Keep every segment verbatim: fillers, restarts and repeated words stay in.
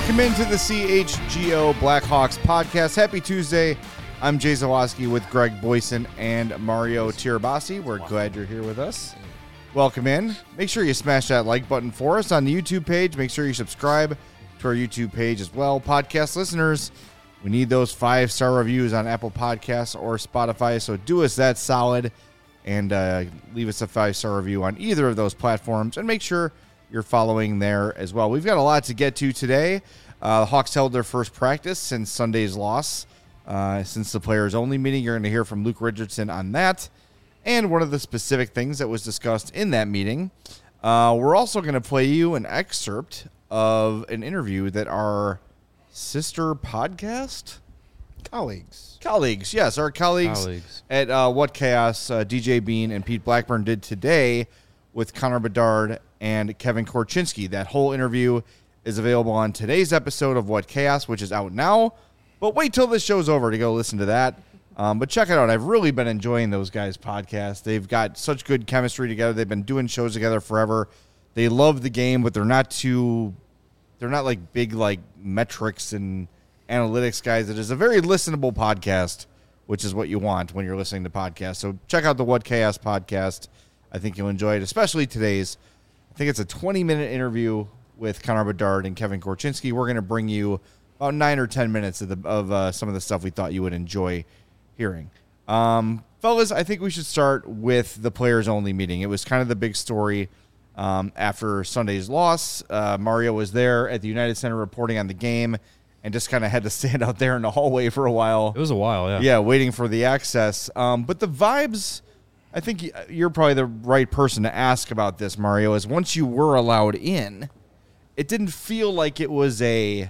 Welcome into the C H G O Blackhawks podcast. Happy Tuesday. I'm Jay Zawoski with Greg Boyson and Mario Tirabassi. We're glad you're here with us. Welcome in. Make sure you smash that like button for us on the YouTube page. Make sure you subscribe to our YouTube page as well. Podcast listeners, we need those five-star reviews on Apple Podcasts or Spotify, so do us that solid and uh, leave us a five-star review on either of those platforms, and make sure you're following there as well. We've got a lot to get to today. Uh, the Hawks held their first practice since Sunday's loss. Uh, since the players-only meeting, you're going to hear from Luke Richardson on that. And one of the specific things that was discussed in that meeting, uh, we're also going to play you an excerpt of an interview that our sister podcast colleagues, colleagues, yes, our colleagues, colleagues. at uh, What Chaos, uh, D J Bean and Pete Blackburn did today with Connor Bedard and Kevin Korchinski. That whole interview is available on today's episode of What Chaos, which is out now. But wait till this show's over to go listen to that. Um, but check it out. I've really been enjoying those guys' podcasts. They've got such good chemistry together. They've been doing shows together forever. They love the game, but they're not too, they're not like big like metrics and analytics guys. It is a very listenable podcast, which is what you want when you're listening to podcasts. So check out the What Chaos podcast. I think you'll enjoy it, especially today's. I think it's a twenty-minute interview with Connor Bedard and Kevin Korchinski. We're going to bring you about nine or ten minutes of, the, of uh, some of the stuff we thought you would enjoy hearing. Um, fellas, I think we should start with the players-only meeting. It was kind of the big story um, after Sunday's loss. Uh, Mario was there at the United Center reporting on the game and just kind of had to stand out there in the hallway for a while. It was a while, yeah. Yeah, waiting for the access. Um, but the vibes, I think you're probably the right person to ask about this, Mario, is once you were allowed in, it didn't feel like it was a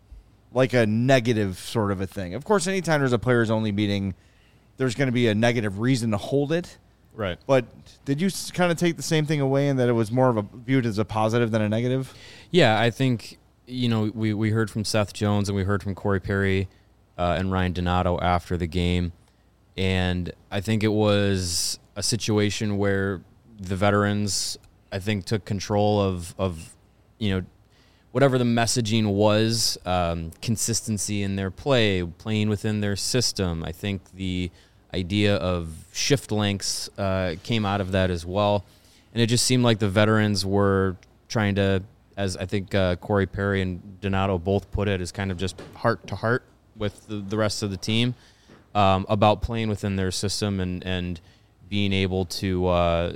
like a negative sort of a thing. Of course, anytime there's a players-only meeting, there's going to be a negative reason to hold it. Right. But did you kind of take the same thing away in that it was more of a viewed as a positive than a negative? Yeah, I think, you know, we, we heard from Seth Jones and we heard from Corey Perry uh, and Ryan Donato after the game. And I think it was a situation where the veterans, I think, took control of, of you know, whatever the messaging was, um, consistency in their play, playing within their system. I think the idea of shift lengths uh, came out of that as well. And it just seemed like the veterans were trying to, as I think uh, Corey Perry and Donato both put it, is kind of just heart to heart with the, the rest of the team um, about playing within their system and, and being able to uh,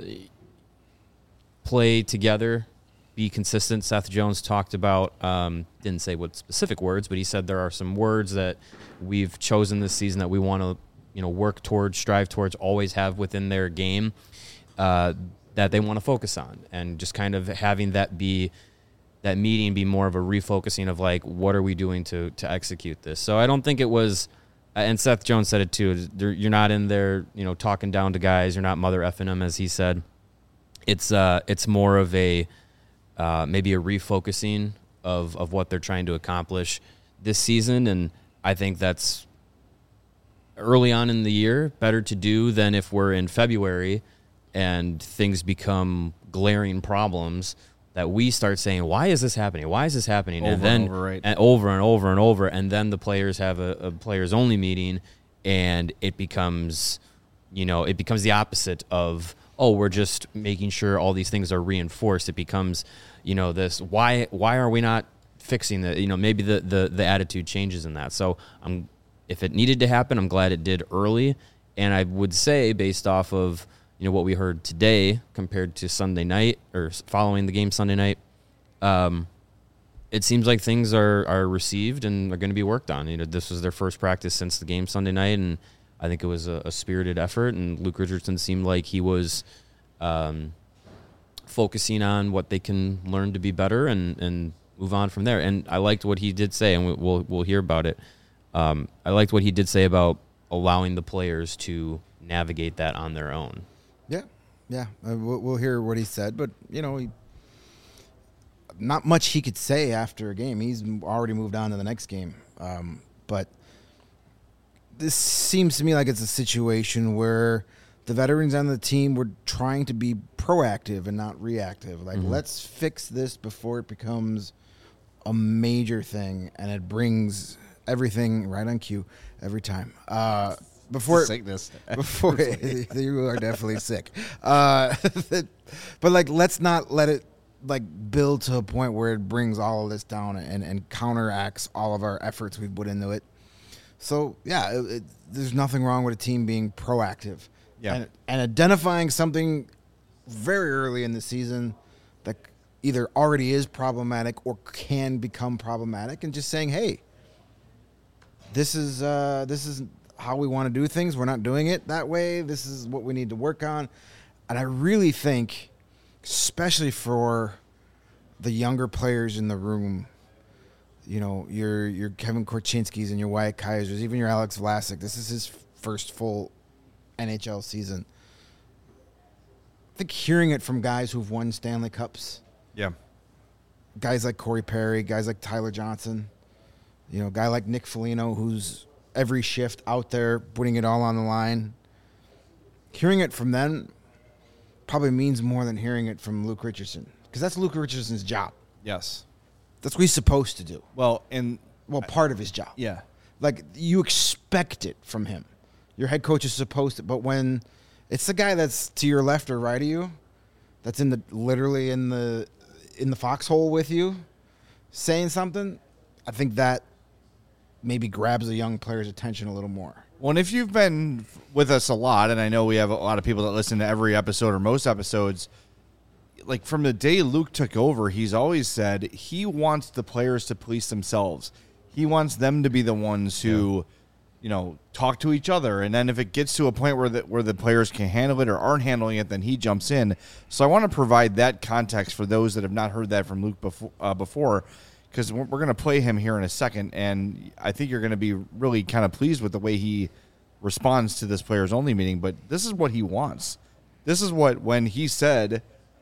play together, be consistent. Seth Jones talked about, um, didn't say what specific words, but he said there are some words that we've chosen this season that we want to, you know, work towards, strive towards, always have within their game uh, that they want to focus on, and just kind of having that be that meeting be more of a refocusing of like, what are we doing to to execute this? So I don't think it was, and Seth Jones said it too. You're not in there, you know, talking down to guys. You're not mother effing them, as he said. It's uh, it's more of a Uh, maybe a refocusing of, of what they're trying to accomplish this season. And I think that's early on in the year better to do than if we're in February and things become glaring problems that we start saying, why is this happening? Why is this happening? Over and then and over, right? and over and over and over. And then the players have a, a players only meeting and it becomes, you know, it becomes the opposite of, oh, we're just making sure all these things are reinforced. It becomes, you know, this, why why are we not fixing the, you know, maybe the, the, the attitude changes in that. So I'm, if it needed to happen, I'm glad it did early. And I would say, based off of, you know, what we heard today compared to Sunday night or following the game Sunday night, um, it seems like things are, are received and are going to be worked on. You know, this was their first practice since the game Sunday night, and I think it was a, a spirited effort, and Luke Richardson seemed like he was um, focusing on what they can learn to be better and, and move on from there. And I liked what he did say, and we'll we'll hear about it. Um, I liked what he did say about allowing the players to navigate that on their own. Yeah, yeah. Uh, we'll, we'll hear what he said, but you know, he, not much he could say after a game. He's already moved on to the next game. Um, but this seems to me like it's a situation where the veterans on the team were trying to be proactive and not reactive. Like, mm-hmm. let's fix this before it becomes a major thing, and it brings everything right on cue every time. Uh, before Sickness. before you are definitely sick. Uh, but like, let's not let it like build to a point where it brings all of this down and, and counteracts all of our efforts we put into it. So yeah, it, it, there's nothing wrong with a team being proactive. Yeah. And, and identifying something very early in the season that either already is problematic or can become problematic, and just saying, hey, this is uh, this is how we want to do things. We're not doing it that way. This is what we need to work on. And I really think, especially for the younger players in the room, you know, your your Kevin Korchinski's and your Wyatt Kaisers, even your Alex Vlasic, this is his first full N H L season. I think hearing it from guys who've won Stanley Cups, Yeah. guys like Corey Perry, guys like Tyler Johnson, you know, a guy like Nick Foligno, who's every shift out there putting it all on the line. Hearing it from them probably means more than hearing it from Luke Richardson, because that's Luke Richardson's job. Yes. That's what he's supposed to do. Well, and Well, part of his job. yeah. Like, you expect it from him. Your head coach is supposed to, but when it's the guy that's to your left or right of you, that's in the literally in the in the foxhole with you, saying something, I think that maybe grabs a young player's attention a little more. Well, and if you've been with us a lot, and I know we have a lot of people that listen to every episode or most episodes, like from the day Luke took over, he's always said he wants the players to police themselves. He wants them to be the ones who, yeah. you know, talk to each other. And then if it gets to a point where the, where the players can handle it or aren't handling it, then he jumps in. So I want to provide that context for those that have not heard that from Luke before, uh, before, because we're, we're going to play him here in a second. And I think you're going to be really kind of pleased with the way he responds to this players only meeting. But this is what he wants. This is what, when he said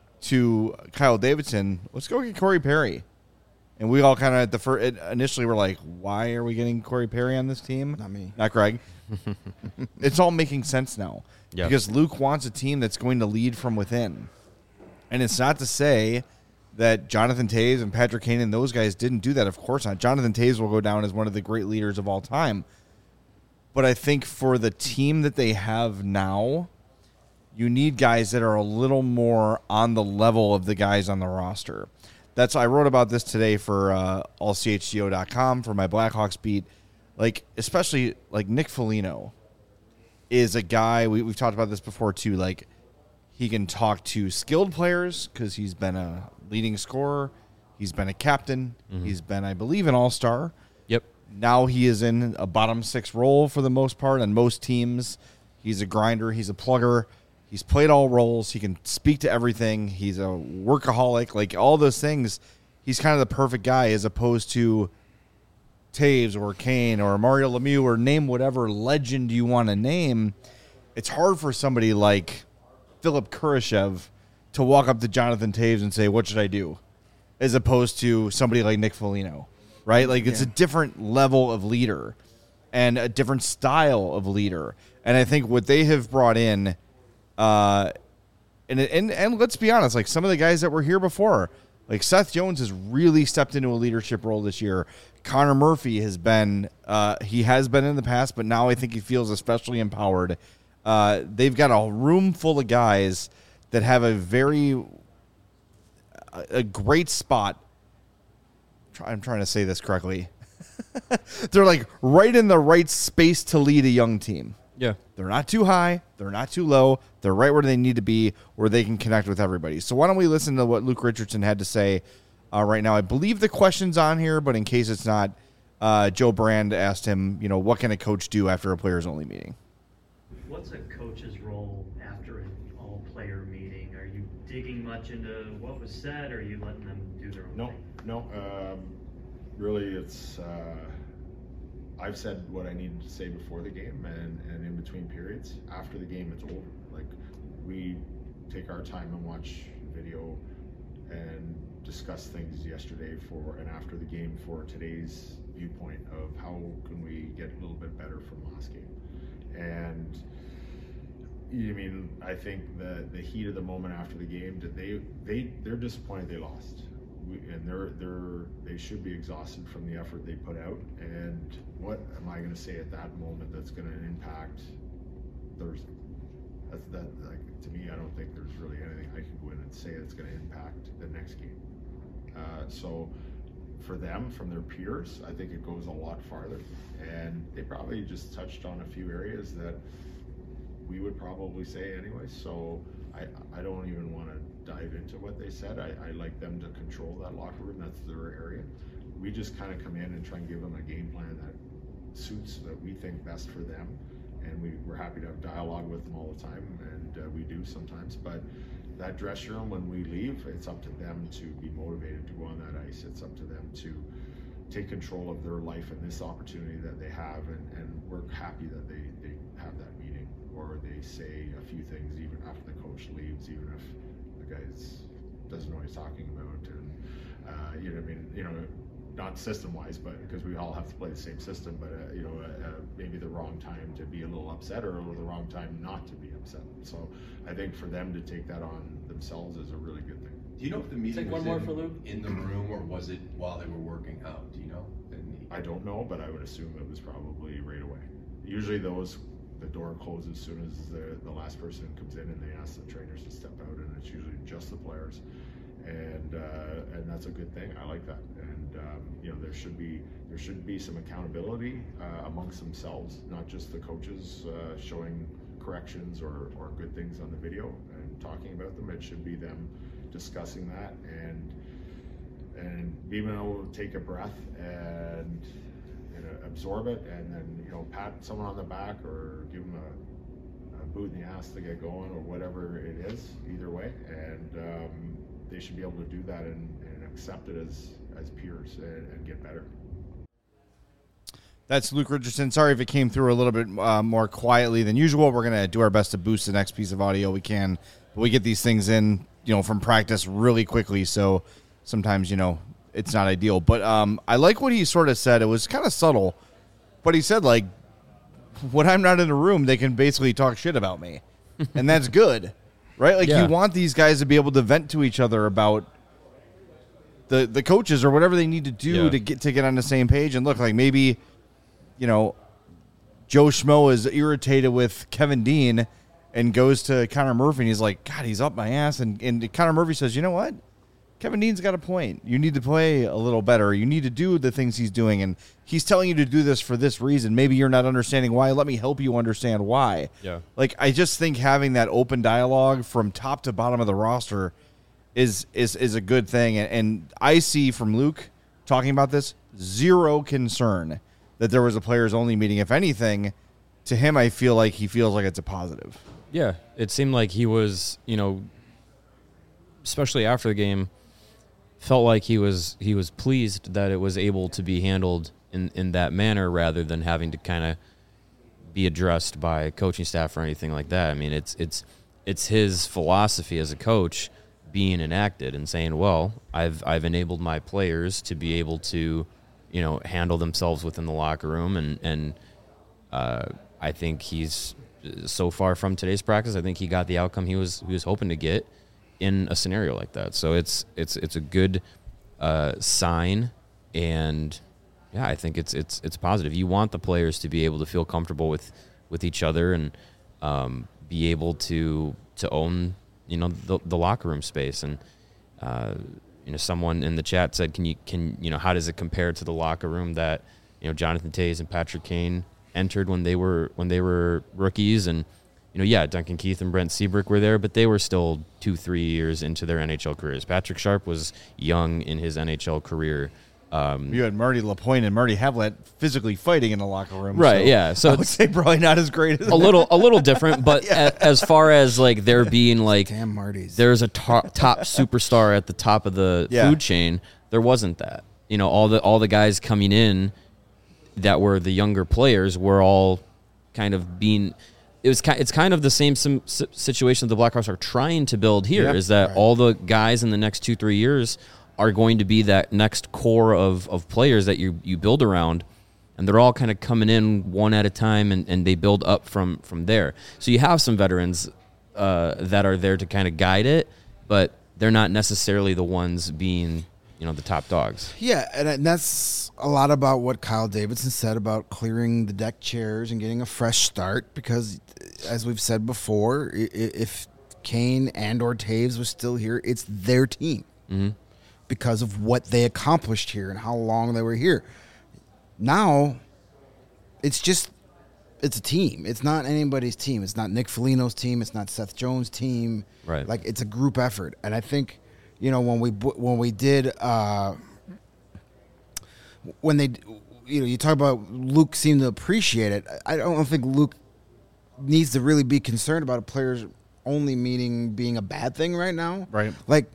to Kyle Davidson, let's go get Corey Perry. And we all kind of at the first initially were like, why are we getting Corey Perry on this team? Not me. Not Greg. It's all making sense now. Yep. Because Luke wants a team that's going to lead from within. And it's not to say that Jonathan Toews and Patrick Kane and those guys didn't do that. Of course not. Jonathan Toews will go down as one of the great leaders of all time. But I think for the team that they have now, you need guys that are a little more on the level of the guys on the roster. That's I wrote about this today for uh, all C H G O dot com for my Blackhawks beat. Like, especially like Nick Foligno is a guy, we, we've talked about this before too, like he can talk to skilled players because he's been a leading scorer. He's been a captain. Mm-hmm. He's been, I believe, an all-star. Yep. Now he is in a bottom six role for the most part on most teams. He's a grinder. He's a plugger. He's played all roles. He can speak to everything. He's a workaholic. Like, all those things, he's kind of the perfect guy as opposed to Toews or Kane or Mario Lemieux or name whatever legend you want to name. It's hard for somebody like Philip Kurashev to walk up to Jonathan Toews and say, what should I do? As opposed to somebody like Nick Foligno, right? Like, it's yeah. a different level of leader and a different style of leader. And I think what they have brought in, uh, and, and, and let's be honest, like some of the guys that were here before, like Seth Jones has really stepped into a leadership role this year. Connor Murphy has been, uh, he has been in the past, but now I think he feels especially empowered. Uh, they've got a room full of guys that have a very, a great spot. I'm trying to say this correctly. They're like right in the right space to lead a young team. Yeah. They're not too high. They're not too low. They're right where they need to be, where they can connect with everybody. So why don't we listen to what Luke Richardson had to say uh, right now? I believe the question's on here, but in case it's not, uh, Joe Brand asked him, you know, what can a coach do after a players-only meeting? What's a coach's role after an all-player meeting? Are you digging much into what was said, or are you letting them do their own no, thing? No, no. Um, really, it's... Uh, I've said what I needed to say before the game and, and in between periods. After the game, it's over. Like, we take our time and watch video and discuss things yesterday for and after the game for today's viewpoint of how can we get a little bit better from last game. And I mean, I think the the heat of the moment after the game, that they they they're disappointed they lost. we, and they're they're they should be exhausted from the effort they put out. And what am I going to say at that moment that's going to impact Thursday? That's that like to me, I don't think there's really anything I can go in and say that's going to impact the next game. Uh, so for them, from their peers, I think it goes a lot farther. And they probably just touched on a few areas that we would probably say anyway. So I I don't even want to dive into what they said. I, I like them to control that locker room. That's their area. We just kind of come in and try and give them a game plan that suits that we think best for them. And we, we're happy to have dialogue with them all the time, and uh, we do sometimes. But that dressing room, when we leave, it's up to them to be motivated to go on that ice. It's up to them to take control of their life and this opportunity that they have. And, and we're happy that they, they have that meeting, or they say a few things even after the coach leaves, even if the guy doesn't know what he's talking about. And uh, you know, I mean, you know, not system-wise, but because we all have to play the same system, but uh, you know, uh, uh, maybe the wrong time to be a little upset, or the wrong time not to be upset. So I think for them to take that on themselves is a really good thing. Do you know if the meeting Take was one more in, for Luke. in the room, or was it while they were working out? Do you know? And I don't know, but I would assume it was probably right away. Usually those, the door closes as soon as the, the last person comes in, and they ask the trainers to step out, and it's usually just the players. And uh, and that's a good thing. I like that. And um, you know, there should be there should be some accountability uh, amongst themselves, not just the coaches uh, showing corrections or, or good things on the video and talking about them. It should be them discussing that and and being able to take a breath and, and uh, absorb it, and then, you know, pat someone on the back or give them a, a boot in the ass to get going, or whatever it is. Either way, and um, they should be able to do that and, and accept it as as peers and, and get better. That's Luke Richardson. Sorry if it came through a little bit uh, more quietly than usual. We're going to do our best to boost the next piece of audio we can. But we get these things in, you know, from practice really quickly, so sometimes, you know, it's not ideal. But um, I like what he sort of said. It was kind of subtle, but he said, like, when I'm not in a room, they can basically talk shit about me. And that's good, right? Like, Yeah. you want these guys to be able to vent to each other about the the coaches or whatever they need to do Yeah. to get to get on the same page. And look, like, maybe, you know, Joe Schmo is irritated with Kevin Dean and goes to Connor Murphy, and he's like, God, he's up my ass. And, and Connor Murphy says, you know what? Kevin Dean's got a point. You need to play a little better. You need to do the things he's doing, and he's telling you to do this for this reason. Maybe you're not understanding why. Let me help you understand why. Yeah. Like, I just think having that open dialogue from top to bottom of the roster is is is a good thing. And, and I see from Luke talking about this zero concern that there was a players-only meeting. If anything, to him, I feel like he feels like it's a positive. Yeah, it seemed like he was, you know, especially after the game, felt like he was he was pleased that it was able to be handled in, in that manner rather than having to kind of be addressed by coaching staff or anything like that. I mean, it's it's it's his philosophy as a coach being enacted and saying, well, I've I've enabled my players to be able to, you know, handle themselves within the locker room, and and uh, I think he's so far from today's practice, I think he got the outcome he was he was hoping to get in a scenario like that. So it's it's it's a good uh, sign, and yeah, I think it's it's it's positive. You want the players to be able to feel comfortable with, with each other and um, be able to to own, you know, the, the locker room space. And uh, you know, someone in the chat said, can you can you know how does it compare to the locker room that, you know, Jonathan Toews and Patrick Kane entered when they were when they were rookies? And you know, yeah, Duncan Keith and Brent Seabrook were there, but they were still two, three years into their N H L careers. Patrick Sharp was young in his N H L career. Um, You had Marty Lapointe and Marty Havlat physically fighting in the locker room. Right, so yeah. So I would it's say probably not as great as a little a little different, but a, as far as like there being like Damn Marty's. there's a top, top superstar at the top of the Yeah. food chain, there wasn't that. You know, all the all the guys coming in that were the younger players were all kind of being. It was it's kind of the same sim, situation the Blackhawks are trying to build here. Yep. Is that Right. all the guys in the next two three years are going to be that next core of, of players that you you build around, and they're all kind of coming in one at a time, and, and they build up from from there. So you have some veterans uh, that are there to kind of guide it, but they're not necessarily the ones being you know, the top dogs. Yeah, and, and that's a lot about what Kyle Davidson said about clearing the deck chairs and getting a fresh start. Because, as we've said before, i- i- if Kane and or Taves was still here, it's their team Mm-hmm. because of what they accomplished here and how long they were here. Now, it's just it's a team. It's not anybody's team. It's not Nick Foligno's team. It's not Seth Jones' team. Right. Like, it's a group effort, and I think. You know, when we when we did uh, when they, you know, you talk about Luke seemed to appreciate it. I don't think Luke needs to really be concerned about a players only meeting being a bad thing right now. Right. Like,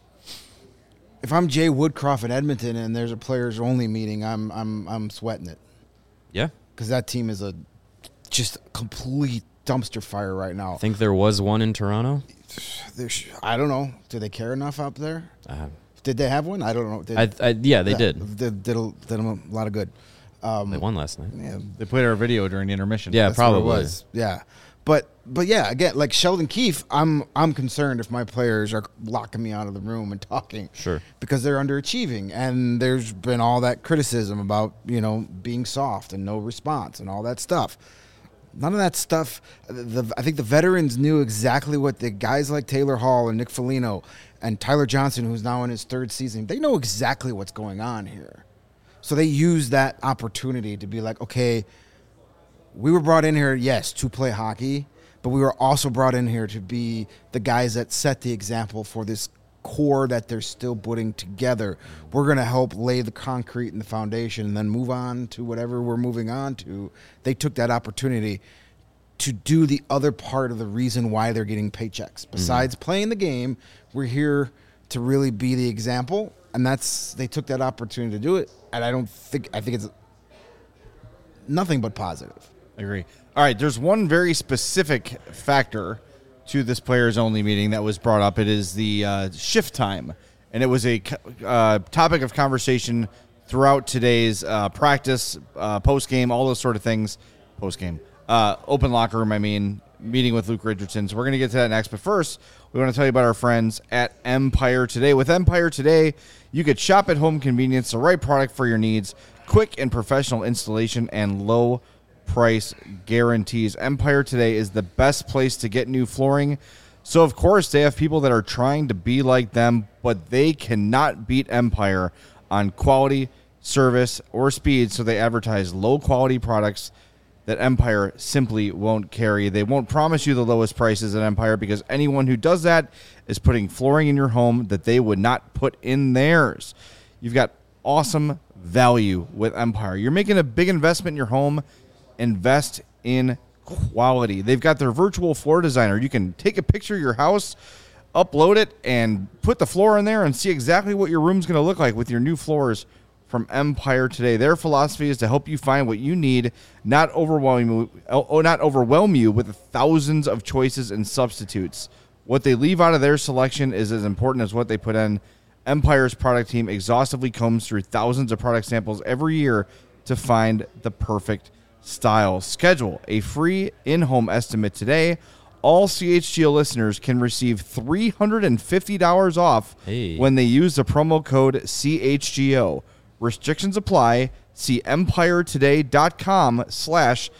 if I'm Jay Woodcroft in Edmonton and there's a players only meeting, I'm I'm I'm sweating it Yeah. because that team is a just a complete dumpster fire right now. I think there was one in Toronto. There's, I don't know. Do they care enough up there? Uh, Did they have one? I don't know. Did, I, I, yeah, they did. Did, did, a, did them a lot of good. Um, They won last night. yeah, They played our video during the intermission. Yeah, that's what it probably. was. Yeah, but but yeah, again, like Sheldon Keefe, I'm I'm concerned if my players are locking me out of the room and talking. Sure. Because they're underachieving, and there's been all that criticism about you know being soft and no response and all that stuff. None of that stuff. The, I think the veterans knew exactly what the guys like Taylor Hall and Nick Foligno and Tyler Johnson, who's now in his third season, they know exactly what's going on here. So they use that opportunity to be like, okay, we were brought in here, yes, to play hockey, but we were also brought in here to be the guys that set the example for this core that they're still putting together. We're going to help lay the concrete and the foundation and then move on to whatever we're moving on to. They took that opportunity to do the other part of the reason why they're getting paychecks. Besides mm-hmm. playing the game, we're here to really be the example, and that's they took that opportunity to do it. And I don't think I think it's nothing but positive. I agree. All right, there's one very specific factor to this players only meeting that was brought up. It is the uh, shift time, and it was a uh, topic of conversation throughout today's uh, practice, uh, post game, all those sort of things. Post game, uh, open locker room. I mean, meeting with Luke Richardson. So we're gonna get to that next. But first, we want to tell you about our friends at Empire Today. With Empire Today, you could shop at home convenience, the right product for your needs, quick and professional installation, and low price guarantees. Empire Today is the best place to get new flooring. So, of course, they have people that are trying to be like them, but they cannot beat Empire on quality, service, or speed, so they advertise low-quality products that Empire simply won't carry. They won't promise you the lowest prices at Empire because anyone who does that is putting flooring in your home that they would not put in theirs. You've got awesome value with Empire. You're making a big investment in your home. Invest in quality. They've got their virtual floor designer. You can take a picture of your house, upload it, and put the floor in there and see exactly what your room's going to look like with your new floors from Empire Today. Their philosophy is to help you find what you need, not overwhelm you, oh, not overwhelm you with thousands of choices and substitutes. What they leave out of their selection is as important as what they put in. Empire's product team exhaustively combs through thousands of product samples every year to find the perfect style. Schedule a free in-home estimate today. All C H G O listeners can receive three hundred fifty dollars off Hey. when they use the promo code C H G O. Restrictions apply. See empiretoday.com slash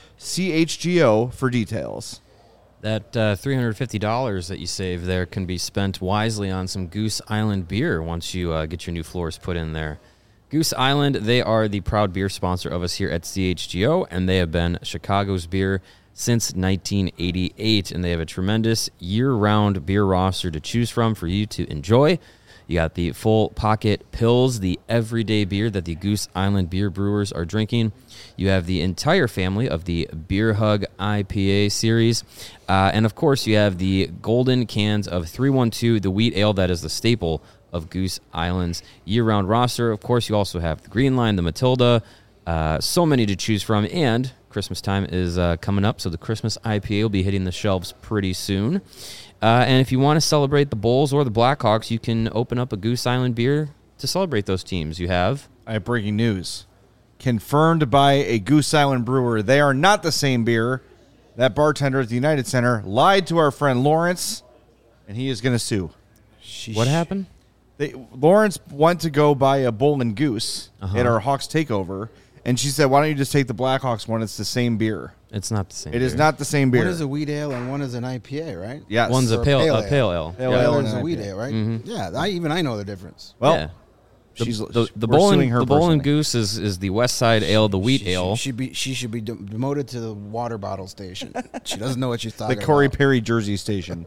CHGO for details. That uh, three hundred fifty dollars that you save there can be spent wisely on some Goose Island beer once you uh, get your new floors put in there. Goose Island, they are the proud beer sponsor of us here at C H G O, and they have been Chicago's beer since nineteen eighty-eight, and they have a tremendous year-round beer roster to choose from for you to enjoy. You got the full pocket pills, the everyday beer that the Goose Island beer brewers are drinking. You have the entire family of the Beer Hug I P A series. Uh, and, of course, you have the golden cans of three one two, the wheat ale that is the staple of Goose Island's year-round roster. Of course, you also have the Green Line, the Matilda, uh, so many to choose from. And Christmas time is uh, coming up, so the Christmas I P A will be hitting the shelves pretty soon. Uh, and if you want to celebrate the Bulls or the Blackhawks, you can open up a Goose Island beer to celebrate those teams. You have... I have breaking news. Confirmed by a Goose Island brewer. They are not the same beer. That bartender at the United Center lied to our friend Lawrence, and he is going to sue. What happened? They, Lawrence went to go buy a Bull and Goose Uh-huh. at our Hawks takeover, and she said, "Why don't you just take the Blackhawks one? It's the same beer." It's not the same. It is beer. not the same beer. One is a wheat ale and one is an I P A, right? Yes. One's a Or pale, pale a ale. pale ale. Pale The ale other and is a an wheat I P A. ale, right? Mhm. Yeah, I, even I know the difference. Well, Yeah. The, she's the, the we're Bull suing and her the Bull and personally. Goose is, is the West Side Ale, the wheat she, ale. She should be. She should be de- demoted to the water bottle station. She doesn't know what she's The talking Corey about. Perry Jersey station.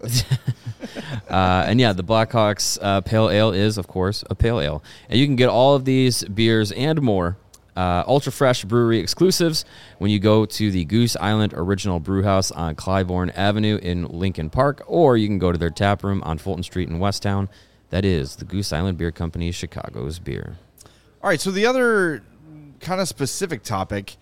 Uh, and yeah, the Blackhawks uh, Pale Ale is, of course, a pale ale. And you can get all of these beers and more, uh, ultra fresh brewery exclusives, when you go to the Goose Island Original Brewhouse on Clybourne Avenue in Lincoln Park, or you can go to their tap room on Fulton Street in Westtown. That is the Goose Island Beer Company, Chicago's beer. All right, so the other kind of specific topic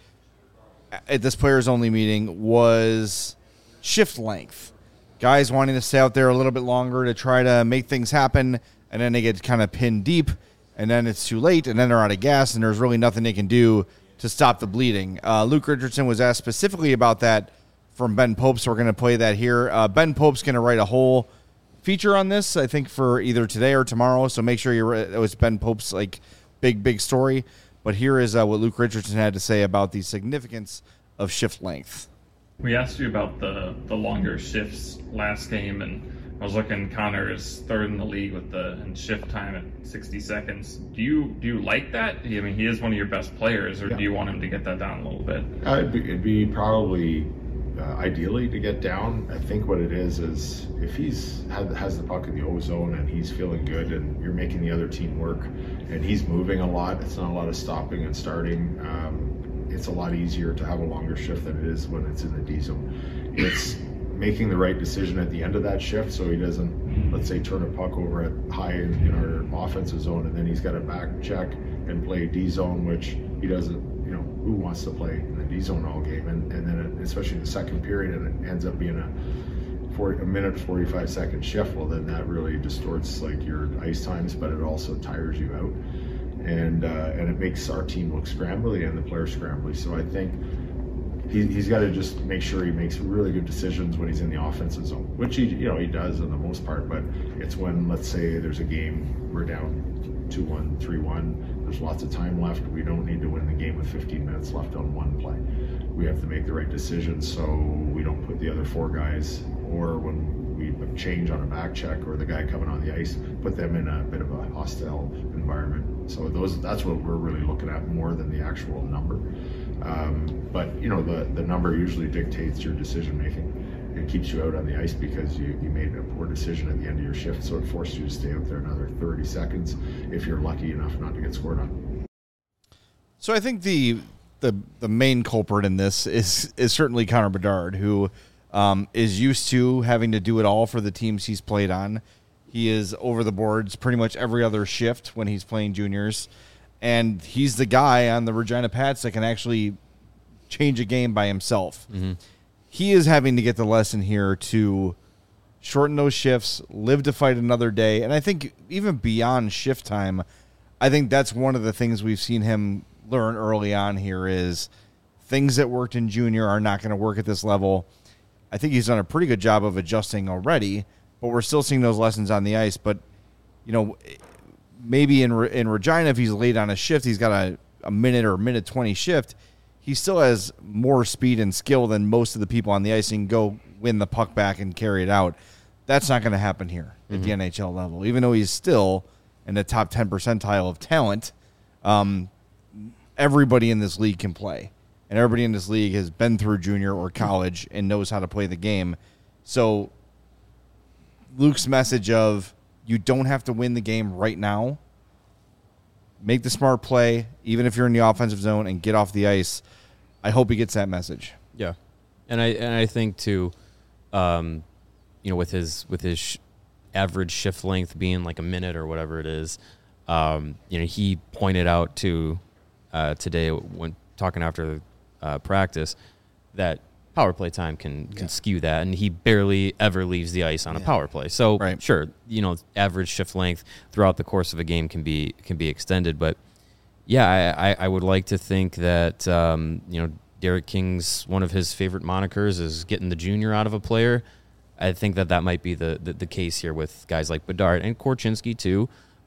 at this players only meeting was shift length. Guys wanting to stay out there a little bit longer to try to make things happen, and then they get kind of pinned deep, and then it's too late, and then they're out of gas, and there's really nothing they can do to stop the bleeding. Uh, Luke Richardson was asked specifically about that from Ben Pope, so we're going to play that here. Uh, Ben Pope's going to write a whole feature on this, I think, for either today or tomorrow, so make sure you it was Ben Pope's like big, big story. But here is uh, what Luke Richardson had to say about the significance of shift length. We asked you about the, the longer shifts last game, and I was looking. Connor is third in the league with the in shift time at sixty seconds. Do you do you like that? I mean, he is one of your best players, or Yeah. do you want him to get that down a little bit? Uh, it'd, be, it'd be probably uh, ideally to get down. I think what it is is if he's has, has the puck in the O zone and he's feeling good, and you're making the other team work, and he's moving a lot. It's not a lot of stopping and starting. Um, it's a lot easier to have a longer shift than it is when it's in the D zone. It's making the right decision at the end of that shift so he doesn't, let's say, turn a puck over at high in, in our offensive zone, and then he's got to back check and play D zone, which he doesn't, you know, who wants to play in the D zone all game? And, and then it, especially in the second period, and it ends up being a forty, a minute forty-five second shift. Well, then that really distorts like your ice times, but it also tires you out. And uh, and it makes our team look scrambly and the players scrambly. So I think he, he's got to just make sure he makes really good decisions when he's in the offensive zone, which he you know he does in the most part. But it's when, let's say, there's a game we're down two one, three one. There's lots of time left. We don't need to win the game with fifteen minutes left on one play. We have to make the right decisions so we don't put the other four guys, or when we change on a back check or the guy coming on the ice, put them in a bit of a hostile environment. So those that's what we're really looking at more than the actual number. Um, but you know, the, the number usually dictates your decision making. It keeps you out on the ice because you, you made a poor decision at the end of your shift, so it forces you to stay out there another thirty seconds if you're lucky enough not to get scored on. So I think the the the main culprit in this is is certainly Connor Bedard, who um, is used to having to do it all for the teams he's played on. He is over the boards pretty much every other shift when he's playing juniors, and he's the guy on the Regina Pats that can actually change a game by himself. Mm-hmm. He is having to get the lesson here to shorten those shifts, live to fight another day, and I think even beyond shift time, I think that's one of the things we've seen him learn early on here is things that worked in junior are not going to work at this level. I think he's done a pretty good job of adjusting already, but we're still seeing those lessons on the ice. But, you know, maybe in in Regina, if he's late on a shift, he's got a, a minute or minute twenty shift, he still has more speed and skill than most of the people on the ice and go win the puck back and carry it out. That's not going to happen here at mm-hmm. the N H L level, even though he's still in the top ten percentile of talent. Um, everybody in this league can play, and everybody in this league has been through junior or college and knows how to play the game. So Luke's message of you don't have to win the game right now. Make the smart play, even if you're in the offensive zone, and get off the ice. I hope he gets that message. Yeah, and I and I think too, um, you know, with his with his sh- average shift length being like a minute or whatever it is, um, you know, he pointed out to uh, today when talking after uh, practice that power play time can can yeah. skew that, and he barely ever leaves the ice on yeah. a power play. So right. sure, you know, average shift length throughout the course of a game can be can be extended, but yeah, I, I, I would like to think that um, you know, Derek King's one of his favorite monikers is getting the junior out of a player. I think that that might be the the, the case here with guys like Bedard and Korchinski too.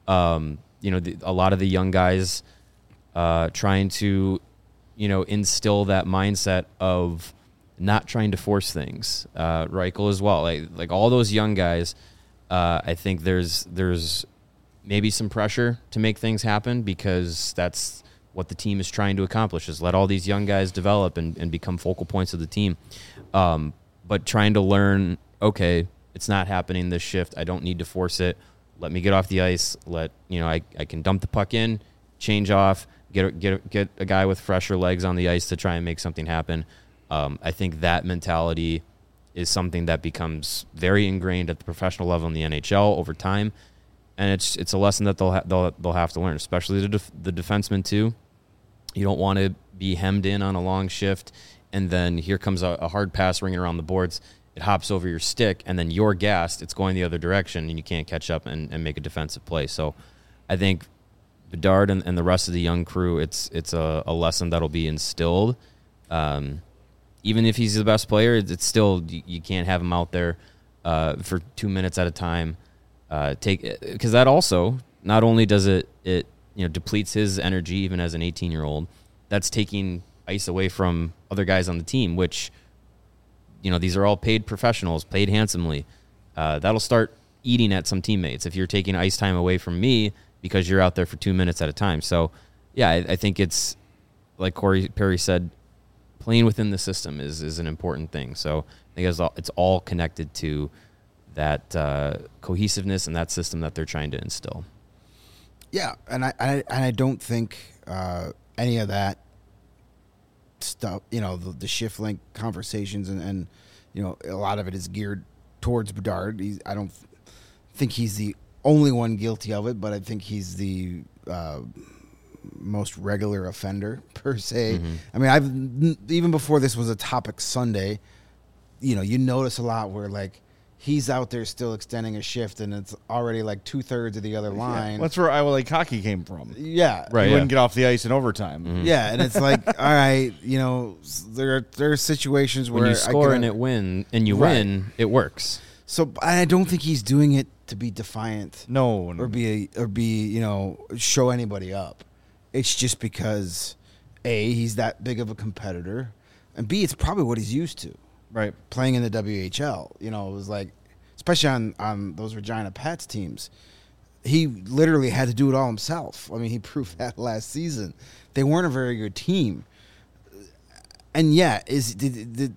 Um, you know, the, a lot of the young guys uh, trying to, you know, instill that mindset of not trying to force things. Uh, Reichel as well, like like all those young guys. Uh, I think there's there's maybe some pressure to make things happen because that's what the team is trying to accomplish, is let all these young guys develop and, and become focal points of the team. Um, but trying to learn, okay, it's not happening this shift. I don't need to force it. Let me get off the ice. Let, you know, I, I can dump the puck in, change off, get, a, get, a, get a guy with fresher legs on the ice to try and make something happen. Um, I think that mentality is something that becomes very ingrained at the professional level in the N H L over time. And it's it's a lesson that they'll ha- they'll they'll have to learn, especially the def- the defensemen too. You don't want to be hemmed in on a long shift, and then here comes a, a hard pass ringing around the boards. It hops over your stick, and then you're gassed. It's going the other direction, and you can't catch up and, and make a defensive play. So I think Bedard and, and the rest of the young crew, it's it's a, a lesson that'll be instilled. Um, even if he's the best player, it's still, you, you can't have him out there uh, for two minutes at a time. Uh, take because that also, not only does it it you know depletes his energy even as an eighteen year old, that's taking ice away from other guys on the team, which, you know, these are all paid professionals, paid handsomely. Uh, that'll start eating at some teammates if you're taking ice time away from me because you're out there for two minutes at a time. So yeah, I, I think it's like Corey Perry said, playing within the system is is an important thing. So I think it's all, it's all connected to that uh, cohesiveness and that system that they're trying to instill. Yeah, and I, I and I don't think uh, any of that stuff, you know, the, the shift link conversations and, and, you know, a lot of it is geared towards Bedard. He's, I don't think he's the only one guilty of it, but I think he's the uh, most regular offender per se. Mm-hmm. I mean, I've even before this was a topic Sunday, you know, you notice a lot where like he's out there still extending a shift and it's already like two thirds of the other line. Yeah. That's where Iowa Lake hockey came from. Yeah. Right. He yeah. wouldn't get off the ice in overtime. Mm-hmm. Yeah. And it's like, all right, you know, there are, there are situations where when you score I and it win and you right. win, it works. So I don't think he's doing it to be defiant. No. no. Or be, a, or be, you know, show anybody up. It's just because A, he's that big of a competitor, and B, it's probably what he's used to. Right. Playing in the W H L. You know, it was like, especially on, on those Regina Pats teams, he literally had to do it all himself. I mean, he proved that last season. They weren't a very good team. And yeah, is did, did,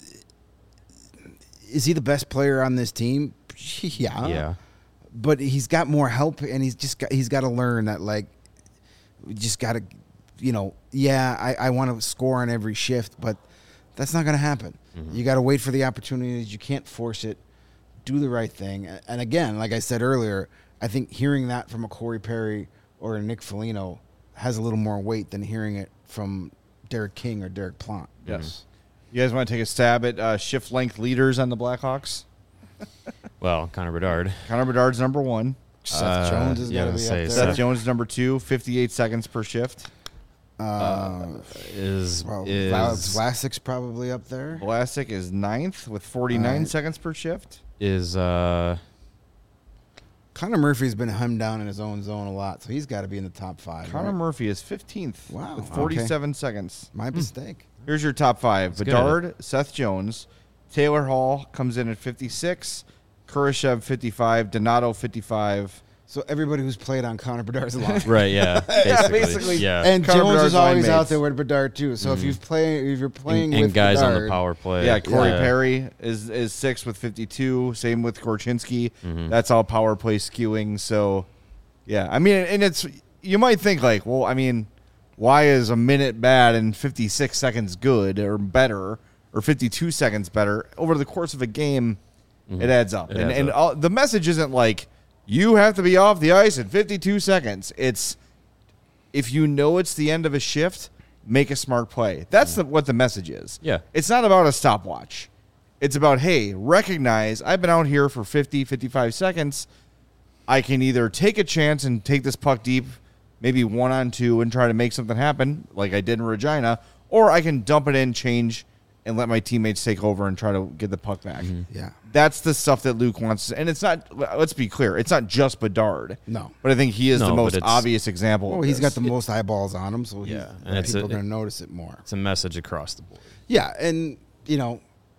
is he the best player on this team? Yeah. Yeah. But he's got more help, and he's just got, he's got to learn that, like, we just got to, you know, yeah, I, I want to score on every shift, but that's not going to happen. Mm-hmm. You got to wait for the opportunities. You can't force it. Do the right thing. And again, like I said earlier, I think hearing that from a Corey Perry or a Nick Foligno has a little more weight than hearing it from Derek King or Derek Plant. Yes. Mm-hmm. You guys want to take a stab at uh, shift length leaders on the Blackhawks? Well, Connor Bedard. Connor Bedard's number one. Seth Uh, Jones is yeah, got to I be was up gonna there. say, Seth Seth- Jones is number two, fifty-eight seconds per shift. Uh, Is well, is Vlasic's probably up there. Vlasic is ninth with forty-nine Right. seconds per shift. is uh Connor Murphy's been hemmed down in his own zone a lot, so he's got to be in the top five. Connor right? Murphy is fifteenth Wow, with okay. forty-seven seconds. My mistake. Here's your top five. That's good. Bedard, Seth Jones, Taylor Hall comes in at fifty-six, Kurashev fifty-five, Donato fifty-five. So everybody who's played on Connor Bedard's line. right, yeah. Basically. basically. Yeah. And Connor Jones Bedard's is always line out mates. there with Bedard too. So if you've play, if you're playing and, and with guys Bedard, on the power play. Yeah, Corey Yeah. Perry is is six with fifty-two. Same with Korchinski. That's all power play skewing. So, yeah, I mean, and it's you might think like, well, I mean, why is a minute bad and fifty-six seconds good or better or fifty-two seconds better over the course of a game? It adds up, It and adds and up. all, the message isn't like you have to be off the ice in fifty-two seconds. It's if you know it's the end of a shift, make a smart play. That's the, what the message is. Yeah. It's not about a stopwatch. It's about, hey, recognize I've been out here for fifty, fifty-five seconds. I can either take a chance and take this puck deep, maybe one on two, and try to make something happen like I did in Regina, or I can dump it in, change, and let my teammates take over and try to get the puck back. Yeah. That's the stuff that Luke wants. And it's not, let's be clear, it's not just Bedard. No. But I think he is No, the but most it's- obvious example. Well, of he's this. got the most eyeballs on him, so he's, Yeah, and it's people a- are going to notice it more. It's a message across the board. Yeah, and, you know,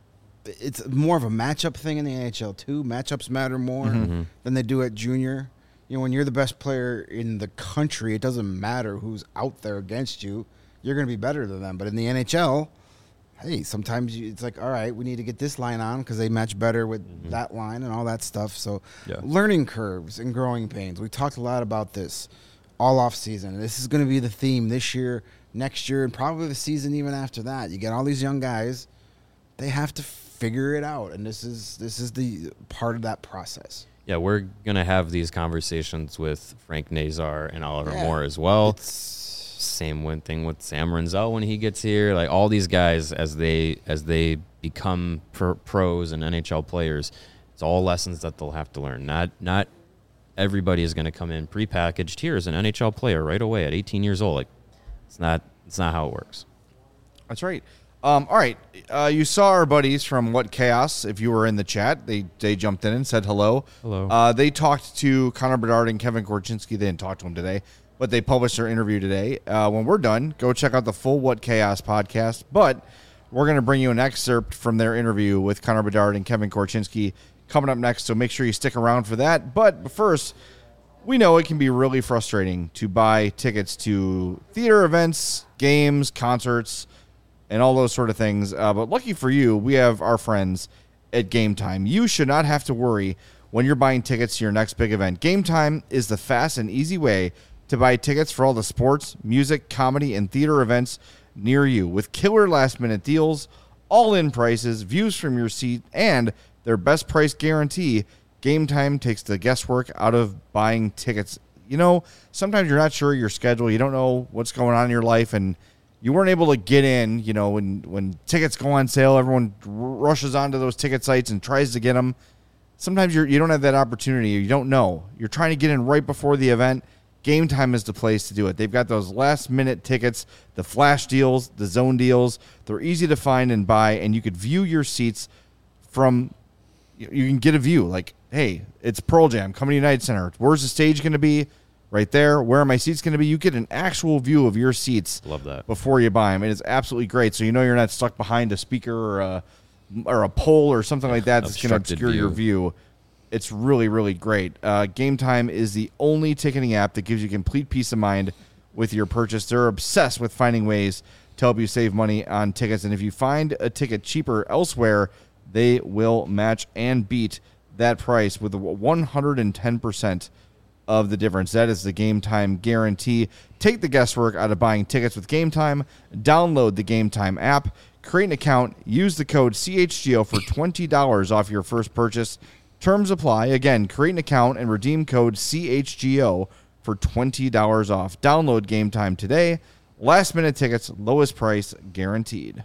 it's more of a matchup thing in the N H L, too. Matchups matter more than they do at junior. You know, when you're the best player in the country, it doesn't matter who's out there against you. You're going to be better than them. But in the N H L, hey, sometimes you, it's like, all right, we need to get this line on because they match better with mm-hmm. that line and all that stuff. So Yeah. learning curves and growing pains. We talked a lot about this all off season. This is going to be the theme this year, next year, and probably the season even after that. You get all these young guys. They have to figure it out, and this is this is the part of that process. Yeah, we're going to have these conversations with Frank Nazar and Oliver Yeah. Moore as well. It's Same one thing with Sam Renzel when he gets here. Like all these guys, as they as they become pro- pros and N H L players, it's all lessons that they'll have to learn. Not not everybody is going to come in prepackaged here as an N H L player right away at eighteen years old. Like it's not it's not how it works. That's right. Um, all right. Uh, you saw our buddies from What Chaos. If you were in the chat, they they jumped in and said hello. Hello. Uh, they talked to Connor Bedard and Kevin Korchinski. They didn't talk to him today, but they published their interview today. Uh, when we're done, go check out the full What Chaos podcast. But we're going to bring you an excerpt from their interview with Connor Bedard and Kevin Korchinski coming up next. So make sure you stick around for that. But first, we know it can be really frustrating to buy tickets to theater events, games, concerts, and all those sort of things. Uh, but lucky for you, we have our friends at Game Time. You should not have to worry when you're buying tickets to your next big event. Game Time is the fast and easy way to buy tickets for all the sports, music, comedy, and theater events near you. With killer last-minute deals, all-in prices, views from your seat, and their best price guarantee, Game Time takes the guesswork out of buying tickets. You know, sometimes you're not sure of your schedule. You don't know what's going on in your life, and you weren't able to get in. You know, when, when tickets go on sale, everyone r- rushes onto those ticket sites and tries to get them. Sometimes you're, you don't have that opportunity. You don't know. You're trying to get in right before the event. Game Time is the place to do it. They've got those last-minute tickets, the flash deals, the zone deals. They're easy to find and buy, and you could view your seats from – you can get a view. Like, hey, it's Pearl Jam coming to United Center. Where's the stage going to be? Right there. Where are my seats going to be? You get an actual view of your seats Love that. before you buy them. It is absolutely great. So you know you're not stuck behind a speaker or a, or a pole or something like that that's going to Obstructed obscure your view. view. It's really, really great. Uh, Game Time is the only ticketing app that gives you complete peace of mind with your purchase. They're obsessed with finding ways to help you save money on tickets. And if you find a ticket cheaper elsewhere, they will match and beat that price with one hundred ten percent of the difference. That is the Game Time guarantee. Take the guesswork out of buying tickets with Game Time. Download the Game Time app, create an account, use the code C H G O for twenty dollars off your first purchase. Terms apply. Again, create an account and redeem code C H G O for twenty dollars off. Download Game Time today. Last minute tickets, lowest price guaranteed.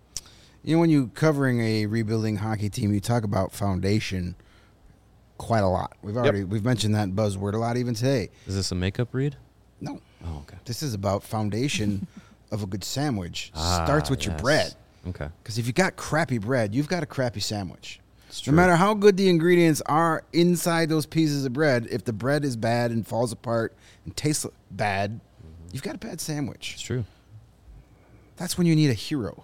You know, when you're covering a rebuilding hockey team, you talk about foundation quite a lot. We've already Yep. we've mentioned that buzzword a lot even today. Is this a makeup read? No, Oh, okay. this is about foundation of a good sandwich. Ah, Starts with your yes. bread. Okay. Because if you got crappy bread, you've got a crappy sandwich. It's No true. matter how good the ingredients are inside those pieces of bread, if the bread is bad and falls apart and tastes bad, you've got a bad sandwich. It's true. That's when you need a hero.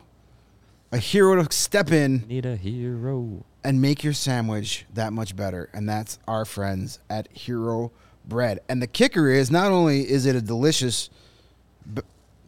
A hero to step in Need a hero. and make your sandwich that much better. And that's our friends at Hero Bread. And the kicker is, not only is it a delicious b-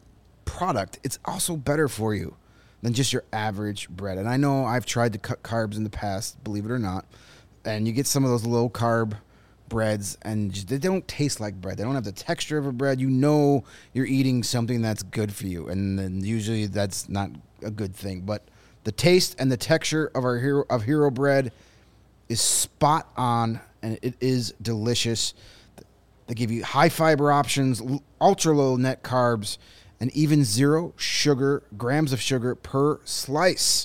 product, it's also better for you than just your average bread. And I know I've tried to cut carbs in the past, believe it or not. And you get some of those low carb breads and just, they don't taste like bread. They don't have the texture of a bread. You know you're eating something that's good for you. And then usually that's not a good thing. But the taste and the texture of our hero of Hero Bread is spot on, and it is delicious. They give you high fiber options, ultra low net carbs, and even zero sugar, grams of sugar per slice.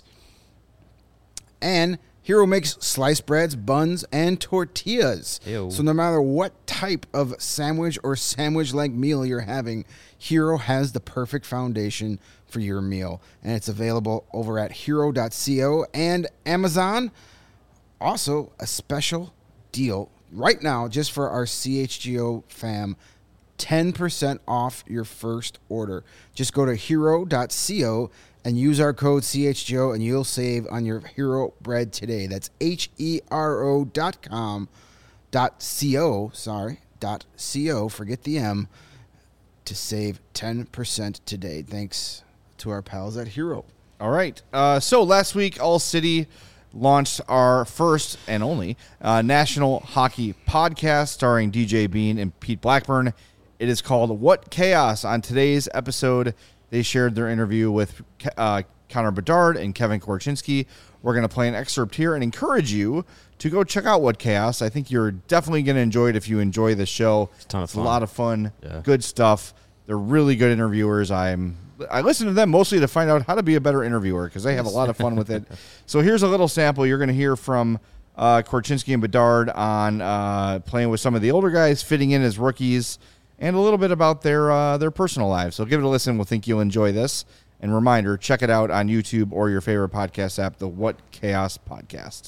And Hero makes sliced breads, buns, and tortillas. Ew. So no matter what type of sandwich or sandwich-like meal you're having, Hero has the perfect foundation for your meal. And it's available over at hero dot co and Amazon. Also, a special deal right now just for our C H G O fam. ten percent off your first order. Just go to hero dot co and use our code C H G O and you'll save on your Hero bread today. That's H E R O dot com dot co, sorry, dot co, forget the M, to save ten percent today. Thanks to our pals at Hero. All right. Uh, so last week, All City launched our first and only uh, national hockey podcast starring D J Bean and Pete Blackburn. It is called What Chaos. On today's episode, they shared their interview with uh, Connor Bedard and Kevin Korchinski. We're going to play an excerpt here and encourage you to go check out What Chaos. I think you're definitely going to enjoy it if you enjoy the show. It's a ton of It's fun. a lot of fun, Yeah. good stuff. They're really good interviewers. I'm I listen to them mostly to find out how to be a better interviewer because they have a lot of fun with it. So here's a little sample. You're going to hear from uh, Korchinski and Bedard on uh, playing with some of the older guys, fitting in as rookies, and a little bit about their uh, their personal lives. So give it a listen. We'll think you'll enjoy this. And reminder, check it out on YouTube or your favorite podcast app, the What Chaos Podcast.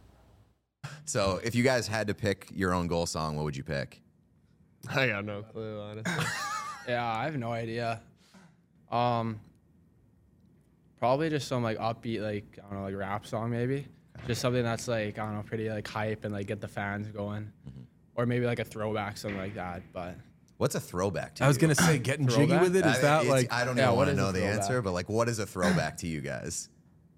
So if you guys had to pick your own goal song, what would you pick? I got no clue, honestly. Yeah, I have no idea. Um, probably just some like upbeat, like I don't know, like rap song maybe. Just something that's like I don't know, pretty like hype and like get the fans going, mm-hmm. or maybe like a throwback, something like that. But what's a throwback to I was you? gonna say getting jiggy Throwback? with it. Is I- that it's- like I don't Yeah, even what want to is a know the throwback? answer, but like, what is a throwback to you guys?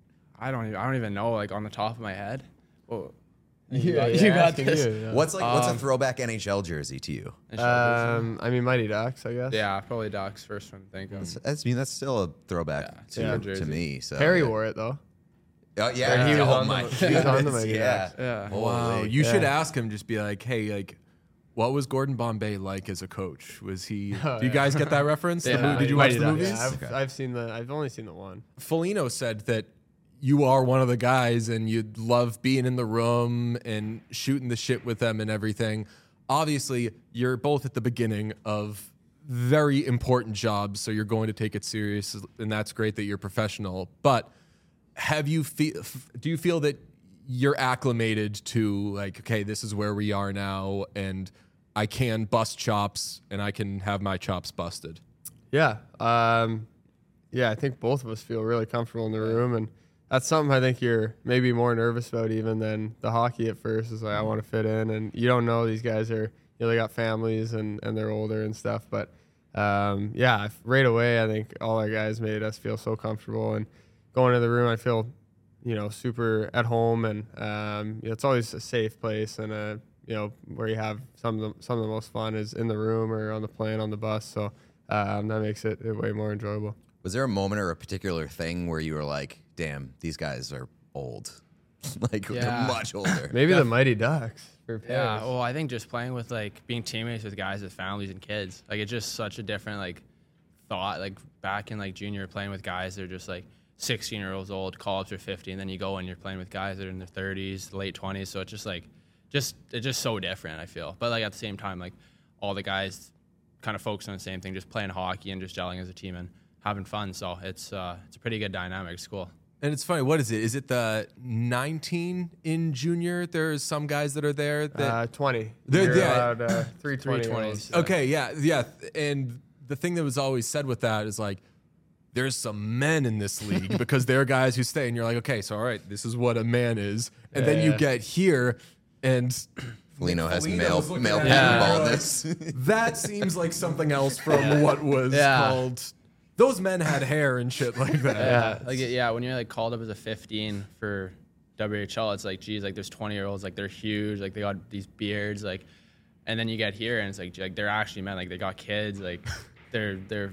I don't even I don't even know like on the top of my head. Oh, You, got- you you're got asking this. you, Yeah. What's like? What's a Um, throwback N H L jersey to you? Um, I mean, Mighty Ducks, I guess. yeah, probably Doc's first one to think of. That's, that's- I mean, that's still a throwback Yeah, it's to, a good to jersey. me. So Perry wore it though. Oh yeah, Or he was oh on my the- he was on the goodness, Mighty yeah. Ducks. Yeah. Holy. wow? You should Yeah. ask him. Just be like, hey, like, what was Gordon Bombay like as a coach? Was he? Oh, do you yeah. guys get that reference? The Yeah, mo- did you Mighty watch the Ducks. movies? Yeah, I've, I've seen the. I've only seen the one. Foligno said that you are one of the guys and you'd love being in the room and shooting the shit with them and everything. Obviously, you're both at the beginning of very important jobs, so you're going to take it serious, and that's great that you're professional. But have you feel? Do you feel that you're acclimated to like, okay, this is where we are now, and I can bust chops and I can have my chops busted? Yeah. Um, yeah, I think both of us feel really comfortable in the room, and that's something I think you're maybe more nervous about even than the hockey at first. Is like I want to fit in, and you don't know these guys are you know they got families and and they're older and stuff. But um, yeah, right away I think all our guys made us feel so comfortable, and going to the room I feel you know super at home, and um, you know, it's always a safe place and a you know where you have some of the some of the most fun is in the room or on the plane on the bus. So um, that makes it way more enjoyable. Was there a moment or a particular thing where you were like, damn, these guys are old? Like, Yeah. they're much older. Maybe the Mighty Ducks. For Yeah, Paris. well, I think just playing with like being teammates with guys with families and kids, like it's just such a different like thought. Like back in like junior, playing with guys that are just like sixteen year olds old, call ups are fifty, and then you go and you're playing with guys that are in their thirties, late twenties. So it's just like, just it's just so different. I feel, but like at the same time, like all the guys kind of focus on the same thing, just playing hockey and just gelling as a team and having fun. So it's uh, it's a pretty good dynamic. It's cool. And it's funny. What is it? Is it the nineteen in junior? There's some guys that are there. That, Uh, twenty. They're- You're yeah. allowed uh, three twenty. three twenties. okay, yeah, yeah. And the thing that was always said with that is like, there's some men in this league because they're guys who stay, and you're like, okay, so all right, this is what a man is. And then you Yeah. get here, and Foligno has Foligno male was looking male at pattern it, and you're baldness. like, that seems like something else from what was Yeah. called. Those men had hair and shit like that. Yeah, like yeah, when you're like called up as a fifteen for W H L, it's like geez, like there's twenty year olds, like they're huge, like they got these beards, like, and then you get here and it's like like they're actually men, like they got kids, like they're they're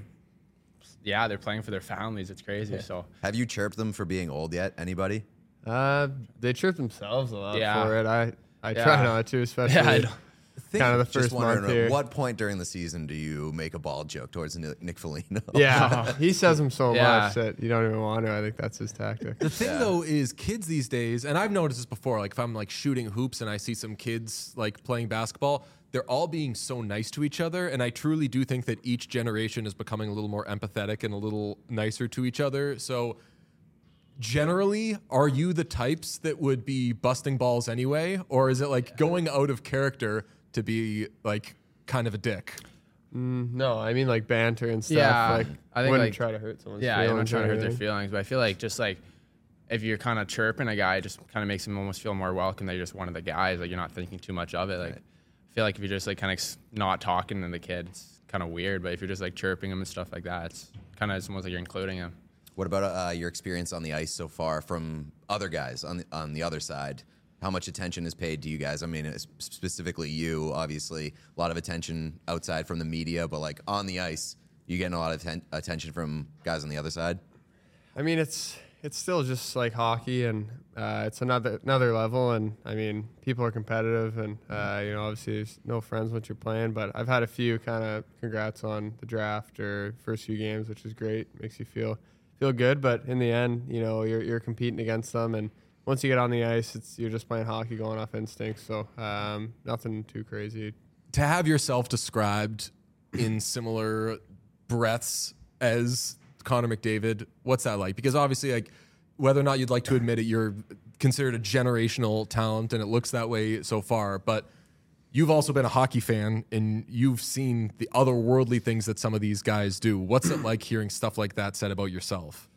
yeah, they're playing for their families. It's crazy. So Have you chirped them for being old yet? Anybody? Uh, they trip themselves a lot Yeah. for it. I, I Yeah. try not to, especially Yeah, I know. kind of the Just first wondering, month here. at what point during the season do you make a bald joke towards Nick Nick Foligno? Yeah, he says them so Yeah. much that you don't even want to. I think that's his tactic. The thing though is kids these days, and I've noticed this before, like if I'm like shooting hoops and I see some kids like playing basketball, they're all being so nice to each other. And I truly do think that each generation is becoming a little more empathetic and a little nicer to each other. So generally, are you the types that would be busting balls anyway? Or is it like going out of character to be like kind of a dick? Mm, no, I mean like banter and stuff. Yeah, like, I think wouldn't like try to hurt someone's yeah, feelings. I'm not trying to or hurt their anything. feelings, but I feel like just like if you're kind of chirping a guy, it just kind of makes him almost feel more welcome that you're just one of the guys. Like you're not thinking too much of it. Like I feel like if you're just like kind of not talking to the kid, it's kind of weird. But if you're just like chirping him and stuff like that, it's kind of almost like you're including him. What about uh, your experience on the ice so far from other guys on the, on the other side? How much attention is paid to you guys? I mean, specifically you, obviously, a lot of attention outside from the media, but like on the ice, you getting a lot of ten- attention from guys on the other side? I mean, it's it's still just like hockey, and uh, it's another another level. And I mean, people are competitive, and uh, you know, obviously, there's no friends once you're playing. But I've had a few kind of congrats on the draft or first few games, which is great. Makes you feel feel good. But in the end, you know, you're you're competing against them, and once you get on the ice, it's you're just playing hockey, going off instincts. So um, nothing too crazy. To have yourself described in similar breaths as Connor McDavid, what's that like? Because obviously, like whether or not you'd like to admit it, you're considered a generational talent, and it looks that way so far. But you've also been a hockey fan, and you've seen the otherworldly things that some of these guys do. What's it like hearing stuff like that said about yourself?